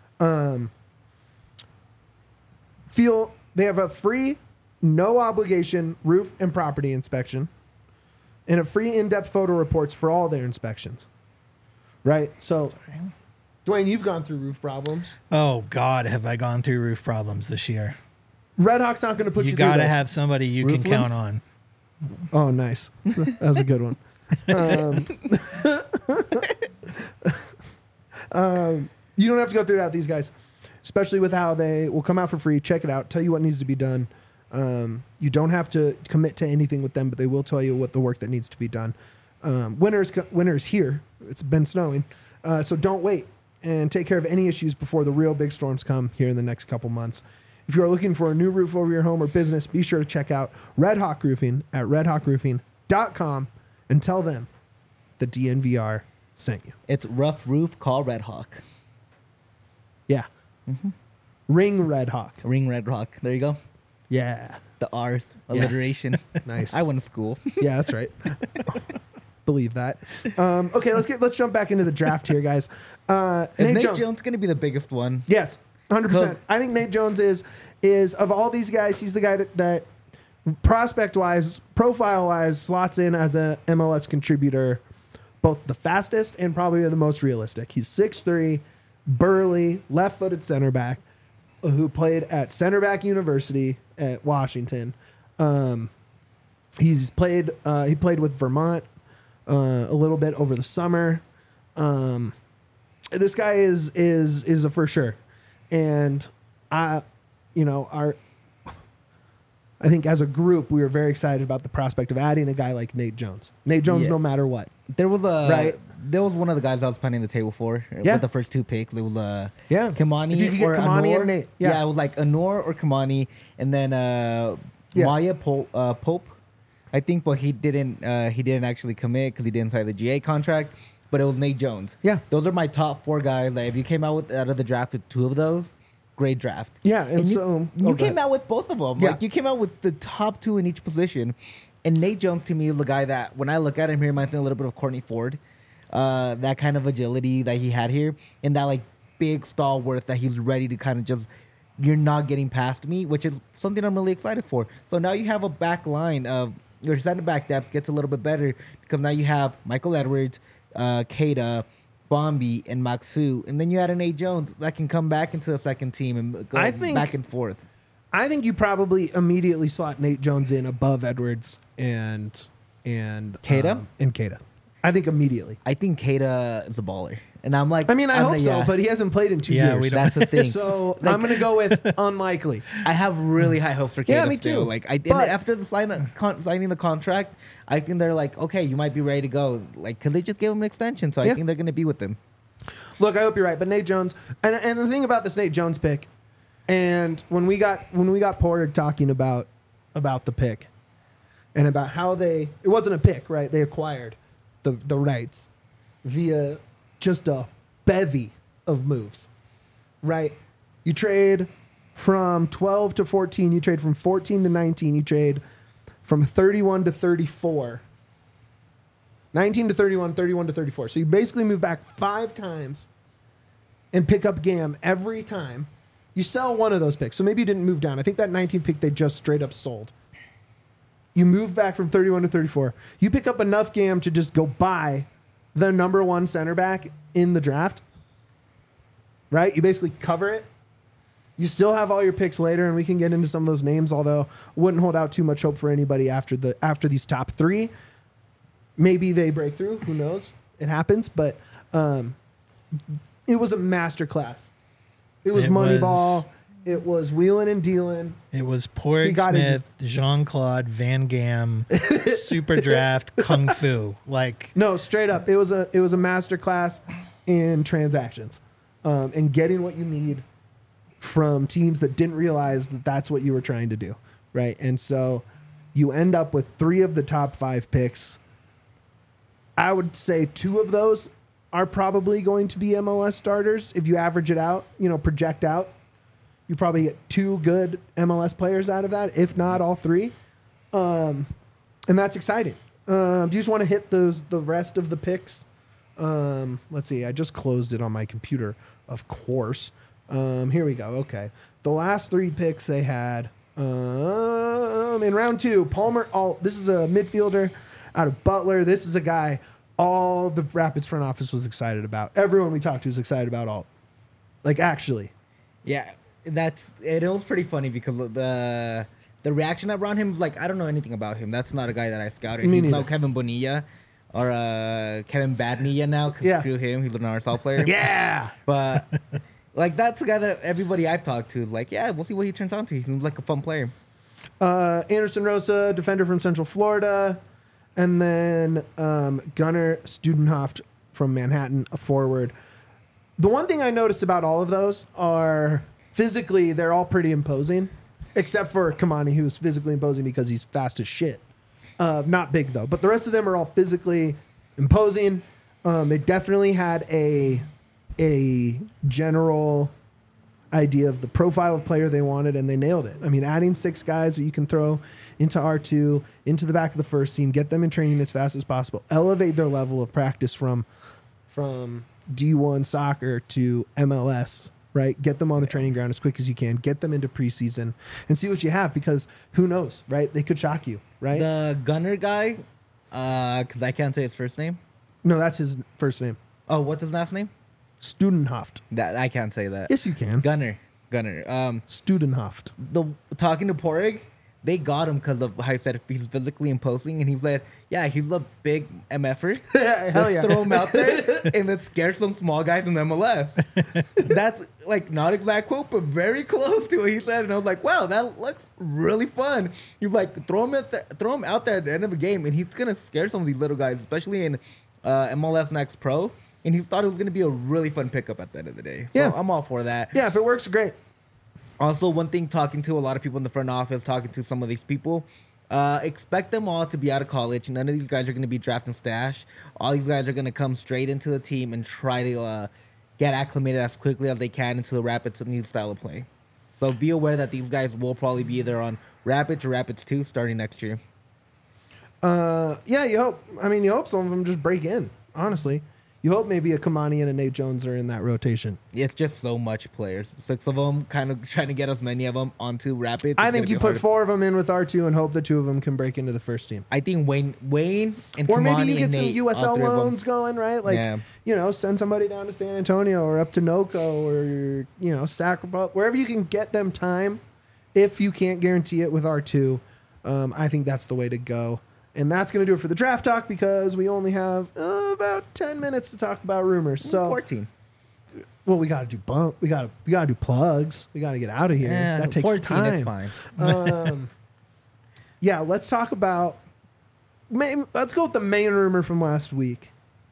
They have a free, no obligation roof and property inspection and a free in-depth photo reports for all their inspections, right? So, Dwayne, you've gone through roof problems. Oh God, have I gone through roof problems this year? Red Hawk's not going to put you You through got to this. have somebody you Roof can count length? on. Oh, nice. That was a good one. You don't have to go through that with these guys, especially with how they will come out for free. Check it out. Tell you what needs to be done. You don't have to commit to anything with them, but they will tell you what the work that needs to be done. Winter's here. It's been snowing. So don't wait and take care of any issues before the real big storms come here in the next couple months. If you are looking for a new roof over your home or business, be sure to check out Red Hawk Roofing at redhawkroofing.com and tell them the DNVR sent you. It's rough roof, call Red Hawk. Yeah. Ring Red Hawk. Ring Red Hawk. There you go. Yeah. The R's. Alliteration. Nice. I went to school. Yeah, that's right. Believe that. Okay, let's jump back into the draft here, guys. Is Nate Jones going to be the biggest one? Yes, 100%. Cool. I think Nate Jones is of all these guys, he's the guy that prospect wise, profile wise, slots in as a MLS contributor, both the fastest and probably the most realistic. He's 6'3", burly, left-footed center back who played at Center Back University at Washington. He played with Vermont a little bit over the summer. This guy is a for sure. And I I think as a group, we were very excited about the prospect of adding a guy like Nate Jones. Nate Jones, Yeah. no matter what. There was Right. There was one of the guys I was planning the table for Yeah. with the first 2 picks. It was Yeah. Kimani If you could get or Kimani Anor. and Nate. Yeah. It was like Anor or Kimani, and then Yeah. Maya Pope. I think, but he didn't actually commit because he didn't sign the GA contract. But it was Nate Jones. Yeah. Those are my top 4 guys. Like if you came out of the draft with 2 of those, great draft. Yeah, and you, so- you okay. came out with both of them. Yeah. Like you came out with the top 2 in each position. And Nate Jones to me is the guy that when I look at him, he reminds me a little bit of Courtney Ford. That kind of agility that he had here, and that like big stalwart that he's ready to kind of just, you're not getting past me, which is something I'm really excited for. So now you have a back line of your center back depth gets a little bit better because now you have Michael Edwards, Keita, Bombi, and Maxu, and then you had an Nate Jones that can come back into the second team and go I think- back and forth. I think you probably immediately slot Nate Jones in above Edwards and Keita? and Keita. I think immediately. I think Keita is a baller, and I'm like, I mean, I I'm hope like, so, yeah. but he hasn't played in 2 Yeah, years. we don't- That's the thing. So Like, I'm going to go with unlikely. I have really high hopes for Keita Yeah, me still. too. Like, and But- after the signing the contract, I think they're like, okay, you might be ready to go. Like, because they just gave him an extension, so Yeah. I think they're going to be with him. Look, I hope you're right, but Nate Jones, and the thing about this Nate Jones pick, and when we got Porter talking about the pick, and about how it wasn't a pick, right? They acquired the rights via just a bevy of moves, right? You trade from 12 to 14, you trade from 14 to 19, you trade from 31 to 34. 19 to 31, 31 to 34. So you basically move back 5 times and pick up GAM every time. You sell one of those picks. So maybe you didn't move down. I think that 19 pick they just straight up sold. You move back from 31 to 34. You pick up enough GAM to just go buy the number 1 center back in the draft. Right? You basically cover it. You still have all your picks later, and we can get into some of those names, although wouldn't hold out too much hope for anybody after these top 3. Maybe they break through. Who knows? It happens. But it was a masterclass. It was Moneyball. It was wheeling and dealing. It was He Porrig got it. Smith, Jean-Claude Van Gam, Super Draft, Kung Fu. Like, No, straight up. It was a masterclass in transactions and getting what you need from teams that didn't realize that that's what you were trying to do, right? And so you end up with 3 of the top 5 picks. I would say 2 of those are probably going to be MLS starters. If you average it out, project out, you probably get 2 good MLS players out of that, if not all 3. And that's exciting. Do you just want to hit the rest of the picks? Let's see. I just closed it on my computer, of course. Here we go. Okay. The last 3 picks they had in round 2, Palmer Alt. This is a midfielder out of Butler. This is a guy all the Rapids front office was excited about. Everyone we talked to was excited about Alt. Like, actually. Yeah, it was pretty funny because of the reaction around him. Like, I don't know anything about him. That's not a guy that I scouted. Me He's no neither. Kevin Bonilla or Kevin Badnilla now because Yeah. screw him. He's an RSL player. Yeah. But like that's a guy that everybody I've talked to is like, yeah, we'll see what he turns out to. He seems like a fun player. Anderson Rosa, defender from Central Florida. And then Gunnar Studenhoft from Manhattan, a forward. The one thing I noticed about all of those are physically they're all pretty imposing, except for Kamani, who's physically imposing because he's fast as shit. Not big, though. But the rest of them are all physically imposing. They definitely had a general idea of the profile of player they wanted, and they nailed it. I mean, adding 6 guys that you can throw into R2, into the back of the first team, get them in training as fast as possible, elevate their level of practice from D1 soccer to MLS, right? Get them on the training ground as quick as you can, get them into preseason, and see what you have, because who knows, right? They could shock you, right? The Gunner guy, because I can't say his first name. No, that's his first name. Oh, what's his last name? Studenhoft. That I can't say that. Yes, you can. Gunner. Studenhoft. Talking to Porrig, they got him because of how he said he's physically imposing, and he said, yeah, he's a big MFer. Hell Let's yeah. throw him out there and let's scare some small guys in MLS. That's like not exact quote, but very close to what he said. And I was like, wow, that looks really fun. He's like, throw him out there at the end of a game, and he's gonna scare some of these little guys, especially in MLS Next Pro. And he thought it was gonna be a really fun pickup at the end of the day. So Yeah. I'm all for that. Yeah, if it works, great. Also, one thing, talking to a lot of people in the front office, talking to some of these people, expect them all to be out of college. None of these guys are going to be drafting stash. All these guys are going to come straight into the team and try to get acclimated as quickly as they can into the Rapids' new style of play. So be aware that these guys will probably be either on Rapids or Rapids 2 starting next year. Yeah, you hope. I mean, you hope some of them just break in, honestly. You hope maybe a Kamani and a Nate Jones are in that rotation. It's just so much players. 6 of them, kind of trying to get as many of them onto Rapids. I It's think gonna you be put hard. 4 of them in with R2 and hope the 2 of them can break into the first team. I think Wayne and Or maybe Kamani you get and some Nate, all USL 3 of them. loans going, right? Like, Yeah. you know, send somebody down to San Antonio or up to NOCO or, you know, Sacramento, wherever you can get them time. If you can't guarantee it with R2, I think that's the way to go. And that's going to do it for the draft talk because we only have about 10 minutes to talk about rumors. So, 14. well, we got to do we got to do plugs. We got to get out of here. Yeah, that takes 14, time. it's fine. Yeah, let's talk about. Let's go with the main rumor from last week,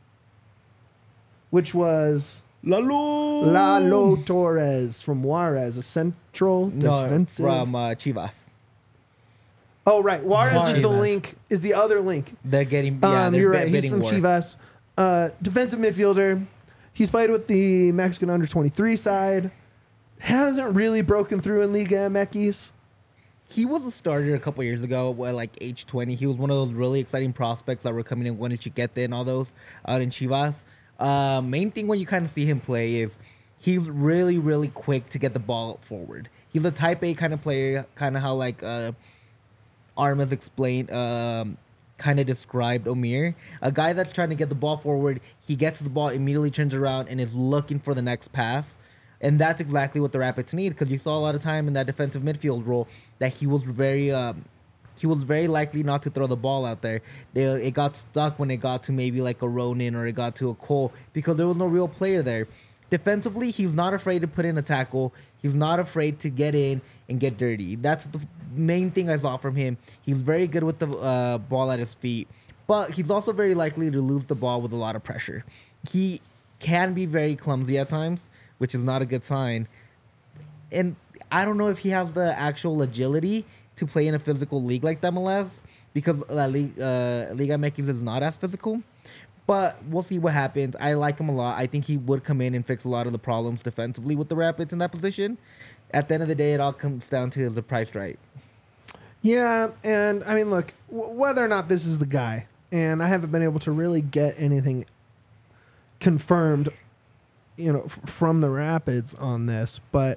which was Lalo Torres from Juarez, a central No, defensive. from Chivas. Oh, right. Juarez is the Chivas. link. Is the other link. They're getting they're You're right. He's bidding from war. Chivas. Defensive midfielder. He's played with the Mexican under 23 side. Hasn't really broken through in Liga MX. He was a starter a couple years ago, at like age 20. He was one of those really exciting prospects that were coming in when Chiquete and all those out in Chivas. Main thing when you kind of see him play is he's really, really quick to get the ball forward. He's a type A kind of player, kind of how like Armas explained, kind of described Omir. A guy that's trying to get the ball forward, he gets the ball, immediately turns around, and is looking for the next pass. And that's exactly what the Rapids need, because you saw a lot of time in that defensive midfield role that he was very likely not to throw the ball out there. It got stuck when it got to maybe like a Ronin or it got to a Cole because there was no real player there. Defensively, he's not afraid to put in a tackle. He's not afraid to get in and get dirty. That's the main thing I saw from him. He's very good with the ball at his feet, but he's also very likely to lose the ball with a lot of pressure. He can be very clumsy at times, which is not a good sign. And I don't know if he has the actual agility to play in a physical league like the MLS because Liga MX is not as physical. But we'll see what happens. I like him a lot. I think he would come in and fix a lot of the problems defensively with the Rapids in that position. At the end of the day, it all comes down to is the price right. Yeah, and I mean, look, whether or not this is the guy, and I haven't been able to really get anything confirmed, you know, from the Rapids on this, but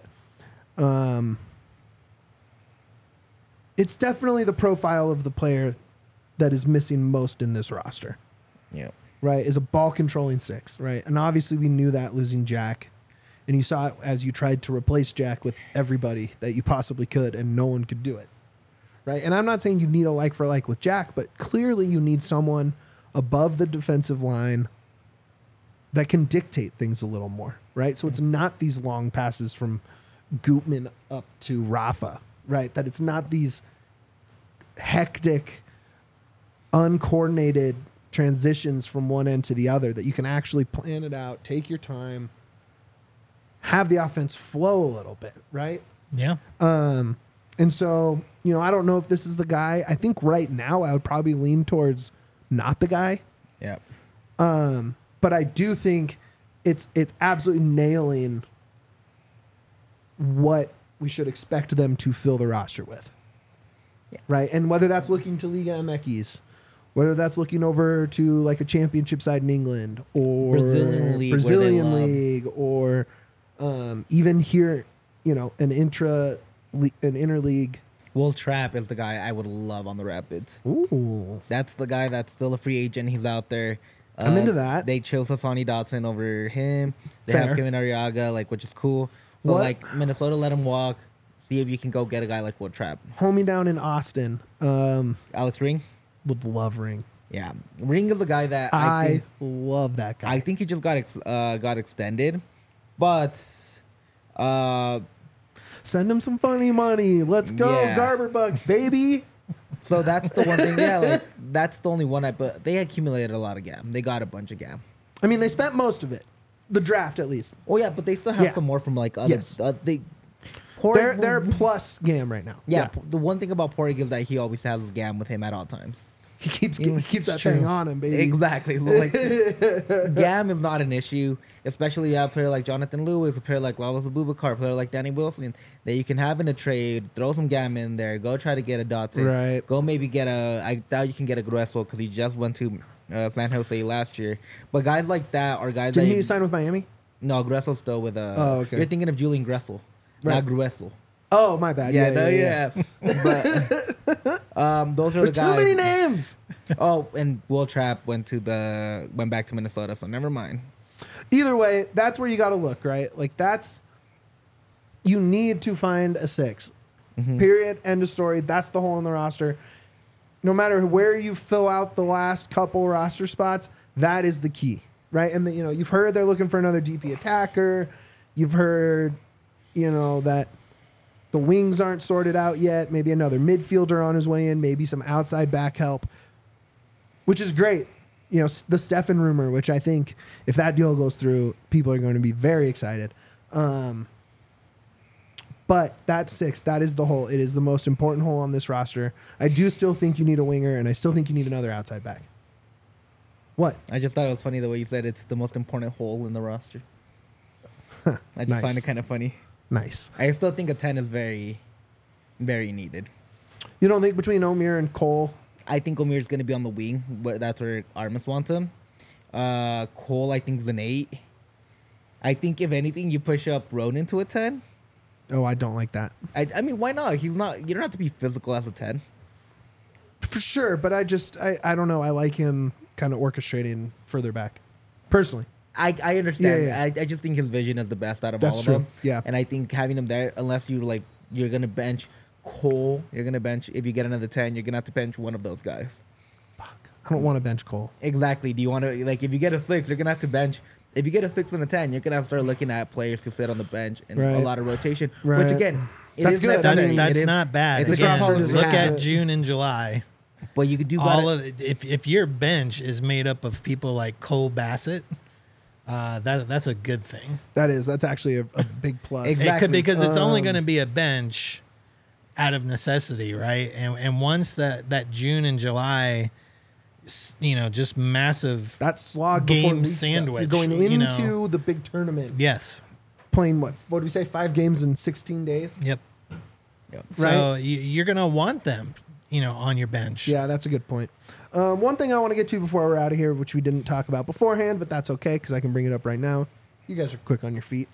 it's definitely the profile of the player that is missing most in this roster. Yeah. Right, is a ball controlling 6, right? And obviously we knew that losing Jack. And you saw it as you tried to replace Jack with everybody that you possibly could, and no one could do it. Right? And I'm not saying you need a like for like with Jack, but clearly you need someone above the defensive line that can dictate things a little more, right? So it's not these long passes from Gutman up to Rafa, right? That it's not these hectic, uncoordinated transitions from one end to the other, that you can actually plan it out, take your time, have the offense flow a little bit, right? Yeah. And so, you know, I don't know if this is the guy. I think right now I would probably lean towards not the guy. Yeah. But I do think it's absolutely nailing what we should expect them to fill the roster with. Yeah. Right? And whether that's looking to Liga MX, whether that's looking over to like a championship side in England or Brazilian league, Brazilian where they league or even here, you know, an interleague. Will Trapp is the guy I would love on the Rapids. Ooh. That's the guy that's still a free agent. He's out there. I'm into that. They chose Hassani Dotson over him. They Fair. have Kevin Arriaga, like, which is cool. So, What? like, Minnesota let him walk. See if you can go get a guy like Will Trapp. Homie down in Austin. Alex Ring? Would love Ring. Yeah. Ring is a guy that I love that guy. I think he just got extended. But Send him some funny money. Let's go, Yeah. Garber Bucks, baby. so that's the one thing. Yeah, like that's the only one but they accumulated a lot of GAM. They got a bunch of GAM. I mean, they spent most of it. The draft, at least. Oh yeah, but they still have Yeah. some more from like other. Yes. They're plus GAM right now. Yeah, the one thing about Porig is that he always has his GAM with him at all times. He keeps It's that true. thing on him, baby. Exactly. So like, GAM is not an issue, especially a player like Jonathan Lewis, a player like Lawless Abubakar, a player like Danny Wilson, that you can have in a trade, throw some GAM in there, go try to get a Dotson. Right. Go maybe get I doubt you can get a Grueso because he just went to San Jose last year. But guys like that are guys Didn't that... he sign with Miami? No, Gressel's still with... Oh, okay. You're thinking of Julian Gressel, Right. not Gruesel. Oh, my bad. Yeah. But those are There's the guys. too many names. Oh, and Will Trapp went back to Minnesota, so never mind. Either way, that's where you got to look, right? Like you need to find a 6. Mm-hmm. Period. End of story. That's the hole in the roster. No matter where you fill out the last couple roster spots, that is the key, right? And you've heard they're looking for another DP attacker. You've heard, that the wings aren't sorted out yet. Maybe another midfielder on his way in. Maybe some outside back help, which is great. The Stefan rumor, which I think if that deal goes through, people are going to be very excited. But that 6, that is the hole. It is the most important hole on this roster. I do still think you need a winger, and I still think you need another outside back. What? I just thought it was funny the way you said it's the most important hole in the roster. I just Nice. find it kind of funny. Nice. I still think a 10 is very, very needed. You don't think between Omir and Cole? I think Omir's going to be on the wing, but that's where Armas wants him. Cole, I think, is an 8. I think, if anything, you push up Ronan to a 10. Oh, I don't like that. I mean, why not? He's not. You don't have to be physical as a 10. For sure, but I don't know. I like him kind of orchestrating further back. Personally. I understand. Yeah. I just think his vision is the best out of That's all of true. them. Yeah. And I think having him there, unless you're going to bench Cole, you're going to bench, if you get another 10, you're going to have to bench one of those guys. I don't want to bench Cole. Exactly. Do you want to, if you get a 6, you're going to have to bench. If you get a 6 and a 10, you're going to have to start looking at players to sit on the bench and Right. a lot of rotation, Right. which again, That's is good. necessary. That's It is- not bad. it's a Again, component to look have. at June and July. But you could do All better. of it, if your bench is made up of people like Cole Bassett, that's a good thing. That's actually a big plus. Exactly. Because it's only going to be a bench out of necessity, right? And once that June and July, just massive. That slog Game before league stuff. sandwich, You're going you into know. the big tournament. Yes. Playing what do we say? 5 games in 16 days? Yep. Yep. So you're going to want them, on your bench. Yeah, that's a good point. One thing I want to get to before we're out of here, which we didn't talk about beforehand, but that's okay because I can bring it up right now. You guys are quick on your feet.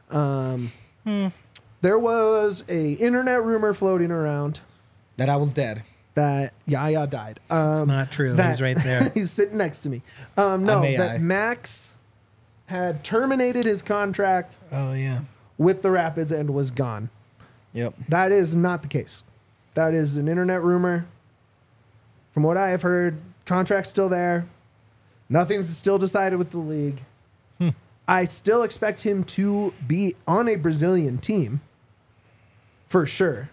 There was a internet rumor floating around That I was dead. that Yaya died. It's not true. that- He's right there. He's sitting next to me. No, I'm that AI. Max had terminated his contract Oh, yeah. with the Rapids and was gone. Yep. That is not the case. That is an internet rumor. From what I have heard, contract's still there. Nothing's still decided with the league. I still expect him to be on a Brazilian team for sure.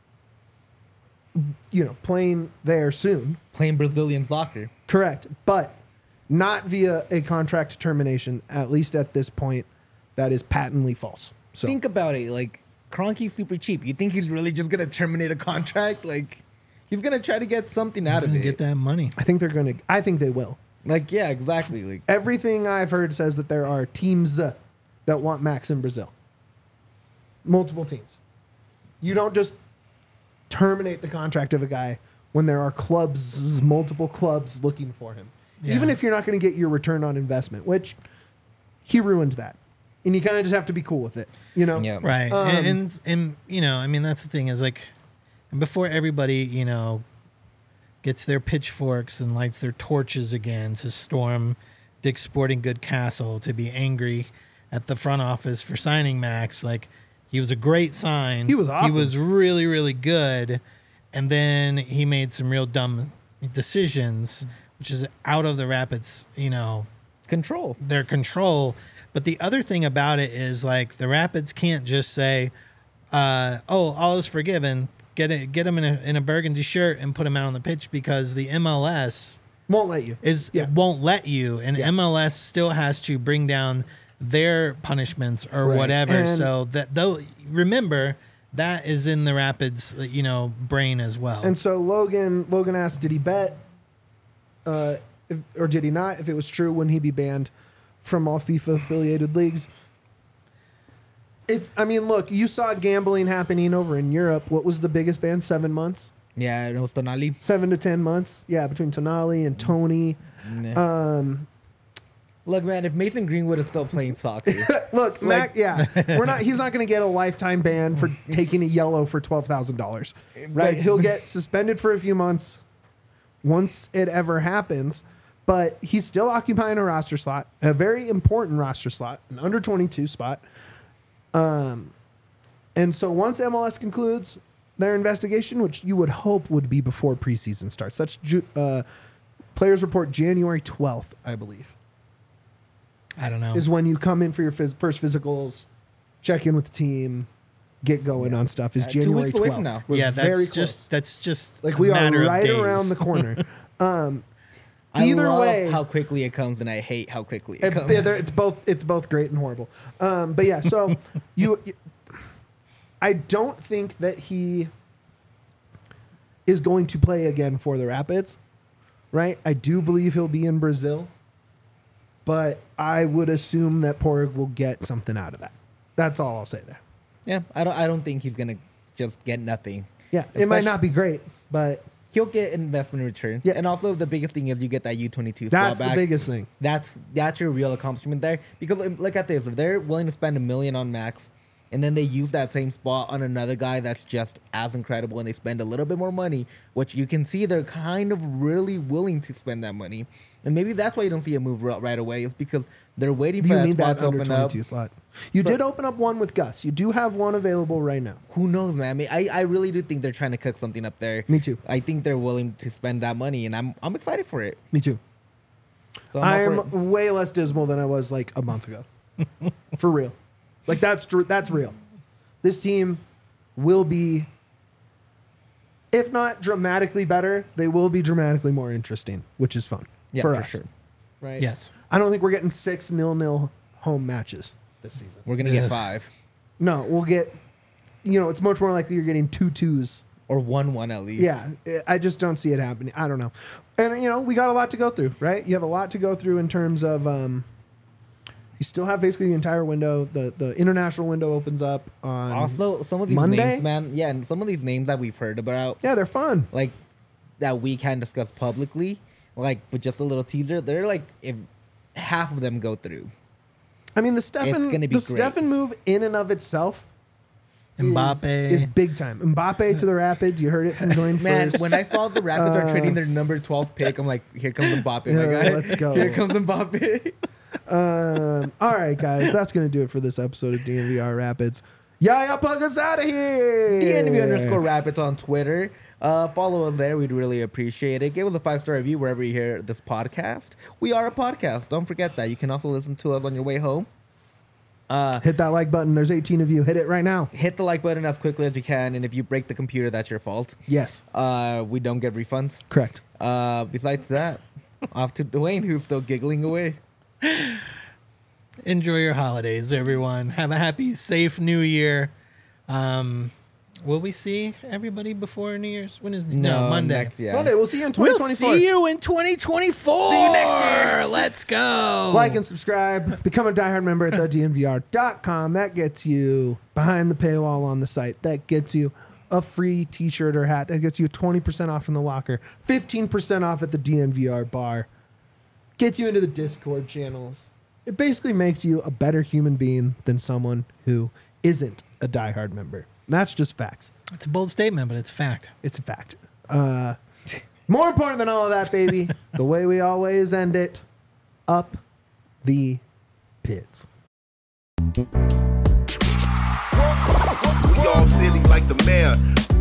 Playing there soon. Playing Brazilian soccer. Correct. But not via a contract termination, at least at this point, that is patently false. So Think about it. Kroenke's super cheap. You think he's really just going to terminate a contract? He's going to try to get something out of Doesn't it. get that money. I think they will. Yeah, exactly. Everything I've heard says that there are teams that want Max in Brazil. Multiple teams. You don't just terminate the contract of a guy when there are multiple clubs looking for him. Yeah. Even if you're not going to get your return on investment, which he ruined that. And you kind of just have to be cool with it, Yeah. Right. And that's the thing is before everybody, gets their pitchforks and lights their torches again to storm Dick's Sporting Good Castle, to be angry at the front office for signing Max, He was a great sign. He was awesome. He was really, really good. And then he made some real dumb decisions, which is out of the Rapids, Control. their control. But the other thing about it is like the Rapids can't just say, all is forgiven. Get him in a burgundy shirt and put him out on the pitch, because the MLS Won't let you. won't let you, and Yeah. MLS still has to bring down their punishments or Right. whatever. And- So that though, remember that is in the Rapids, brain as well. And so Logan asked, did he bet, or did he not? If it was true, wouldn't he be banned from all FIFA affiliated leagues? Look, you saw gambling happening over in Europe. What was the biggest ban? 7 months, Yeah, it was Tonali. 7 to 10 months. Yeah, between Tonali and Tony. Look, man, if Mason Greenwood is still playing soccer, Look, Mac. Yeah, he's not going to get a lifetime ban for taking a yellow for $12,000. Right? He'll get suspended for a few months once it ever happens. But he's still occupying a roster slot, a very important roster slot, an under 22 spot. And so once MLS concludes their investigation, which you would hope would be before preseason starts, that's Players Report January 12th, I believe, I don't know. is when you come in for your first physicals, check in with the team, get going on stuff. Is 2 January weeks 12th. away from now. We're Yeah, very that's close. just Like a we are matter of right days. around the corner. I Either love way, how quickly it comes, and I hate how quickly it comes. it's both great and horrible. But yeah, so I don't think that he is going to play again for the Rapids, right? I do believe he'll be in Brazil, but I would assume that Porig will get something out of that. That's all I'll say there. Yeah, I don't think he's gonna just get nothing. Yeah, it might Especially- not be great, but He'll get investment return. Yeah. And also the biggest thing is you get that U22 spot that's the back. biggest thing. That's your real accomplishment there. Because look at this. If they're willing to spend $1 million on Max, and then they use that same spot on another guy that's just as incredible, and they spend a little bit more money, which you can see they're kind of really willing to spend that money. And maybe that's why you don't see a move right away. Is because they're waiting for You that need spot that to under open up. 22 slot. You So- did open up one with Gus. You do have one available right now. Who knows, man? I really do think they're trying to cook something up there. Me too. I think they're willing to spend that money, and I'm excited for it. Me too. So I'm up for it. I'm way less dismal than I was like a month ago. For real. Like that's real. This team will be, if not dramatically better, they will be dramatically more interesting, which is fun Yeah, for for us. sure. Right? Yes. I don't think we're getting 6-0 home matches this season. We're gonna Ugh. get 5 No, we'll get, it's much more likely you're getting 2-2s. or 1-1 at least. Yeah, I just don't see it happening. I don't know. And, we got a lot to go through, right? You have a lot to go through in terms of, you still have basically the entire window. The international window opens up on Also, some of these Monday? names, man. Yeah, and some of these names that we've heard about, Yeah, they're fun. like that we can't discuss publicly, like with just a little teaser. They're like, if half of them go through, I mean, the It's gonna be great. Steffen move in and of itself Mbappe. is big time. Mbappe to the Rapids. You heard it from Glenn man. first. When I saw the Rapids are trading their number 12 pick, I'm like, here comes Mbappe, my Yeah, guy. let's go. Here comes Mbappe. All right, guys, that's gonna do it for this episode of DNVR Rapids. Yeah, plug us out of here. DNV_Rapids on Twitter. Follow us there. We'd really appreciate it. Give us a 5-star review wherever you hear this podcast. We are a podcast. Don't forget that. You can also listen to us on your way home. Hit that like button. There's 18 of you. Hit it right now. Hit the like button as quickly as you can. And if you break the computer, that's your fault. Yes, We don't get refunds. correct. Besides that, off to Dwayne, who's still giggling away. Enjoy your holidays, everyone. Have a happy, safe New Year. Will we see everybody before New Year's? When is Monday? Next, yeah. Monday. We'll see you in We'll 2024. see you in 2024. See you next year. Let's go. Like and subscribe. Become a diehard member at thednvr.com. That gets you behind the paywall on the site. That gets you a free t-shirt or hat. That gets you 20% off in the locker. 15% off at the DNVR bar. Gets you into the Discord channels. It basically makes you a better human being than someone who isn't a diehard member. That's just facts. It's a bold statement, but it's fact. It's a fact. More important than all of that, baby, the way we always end it, up the pits. We all silly like the mayor.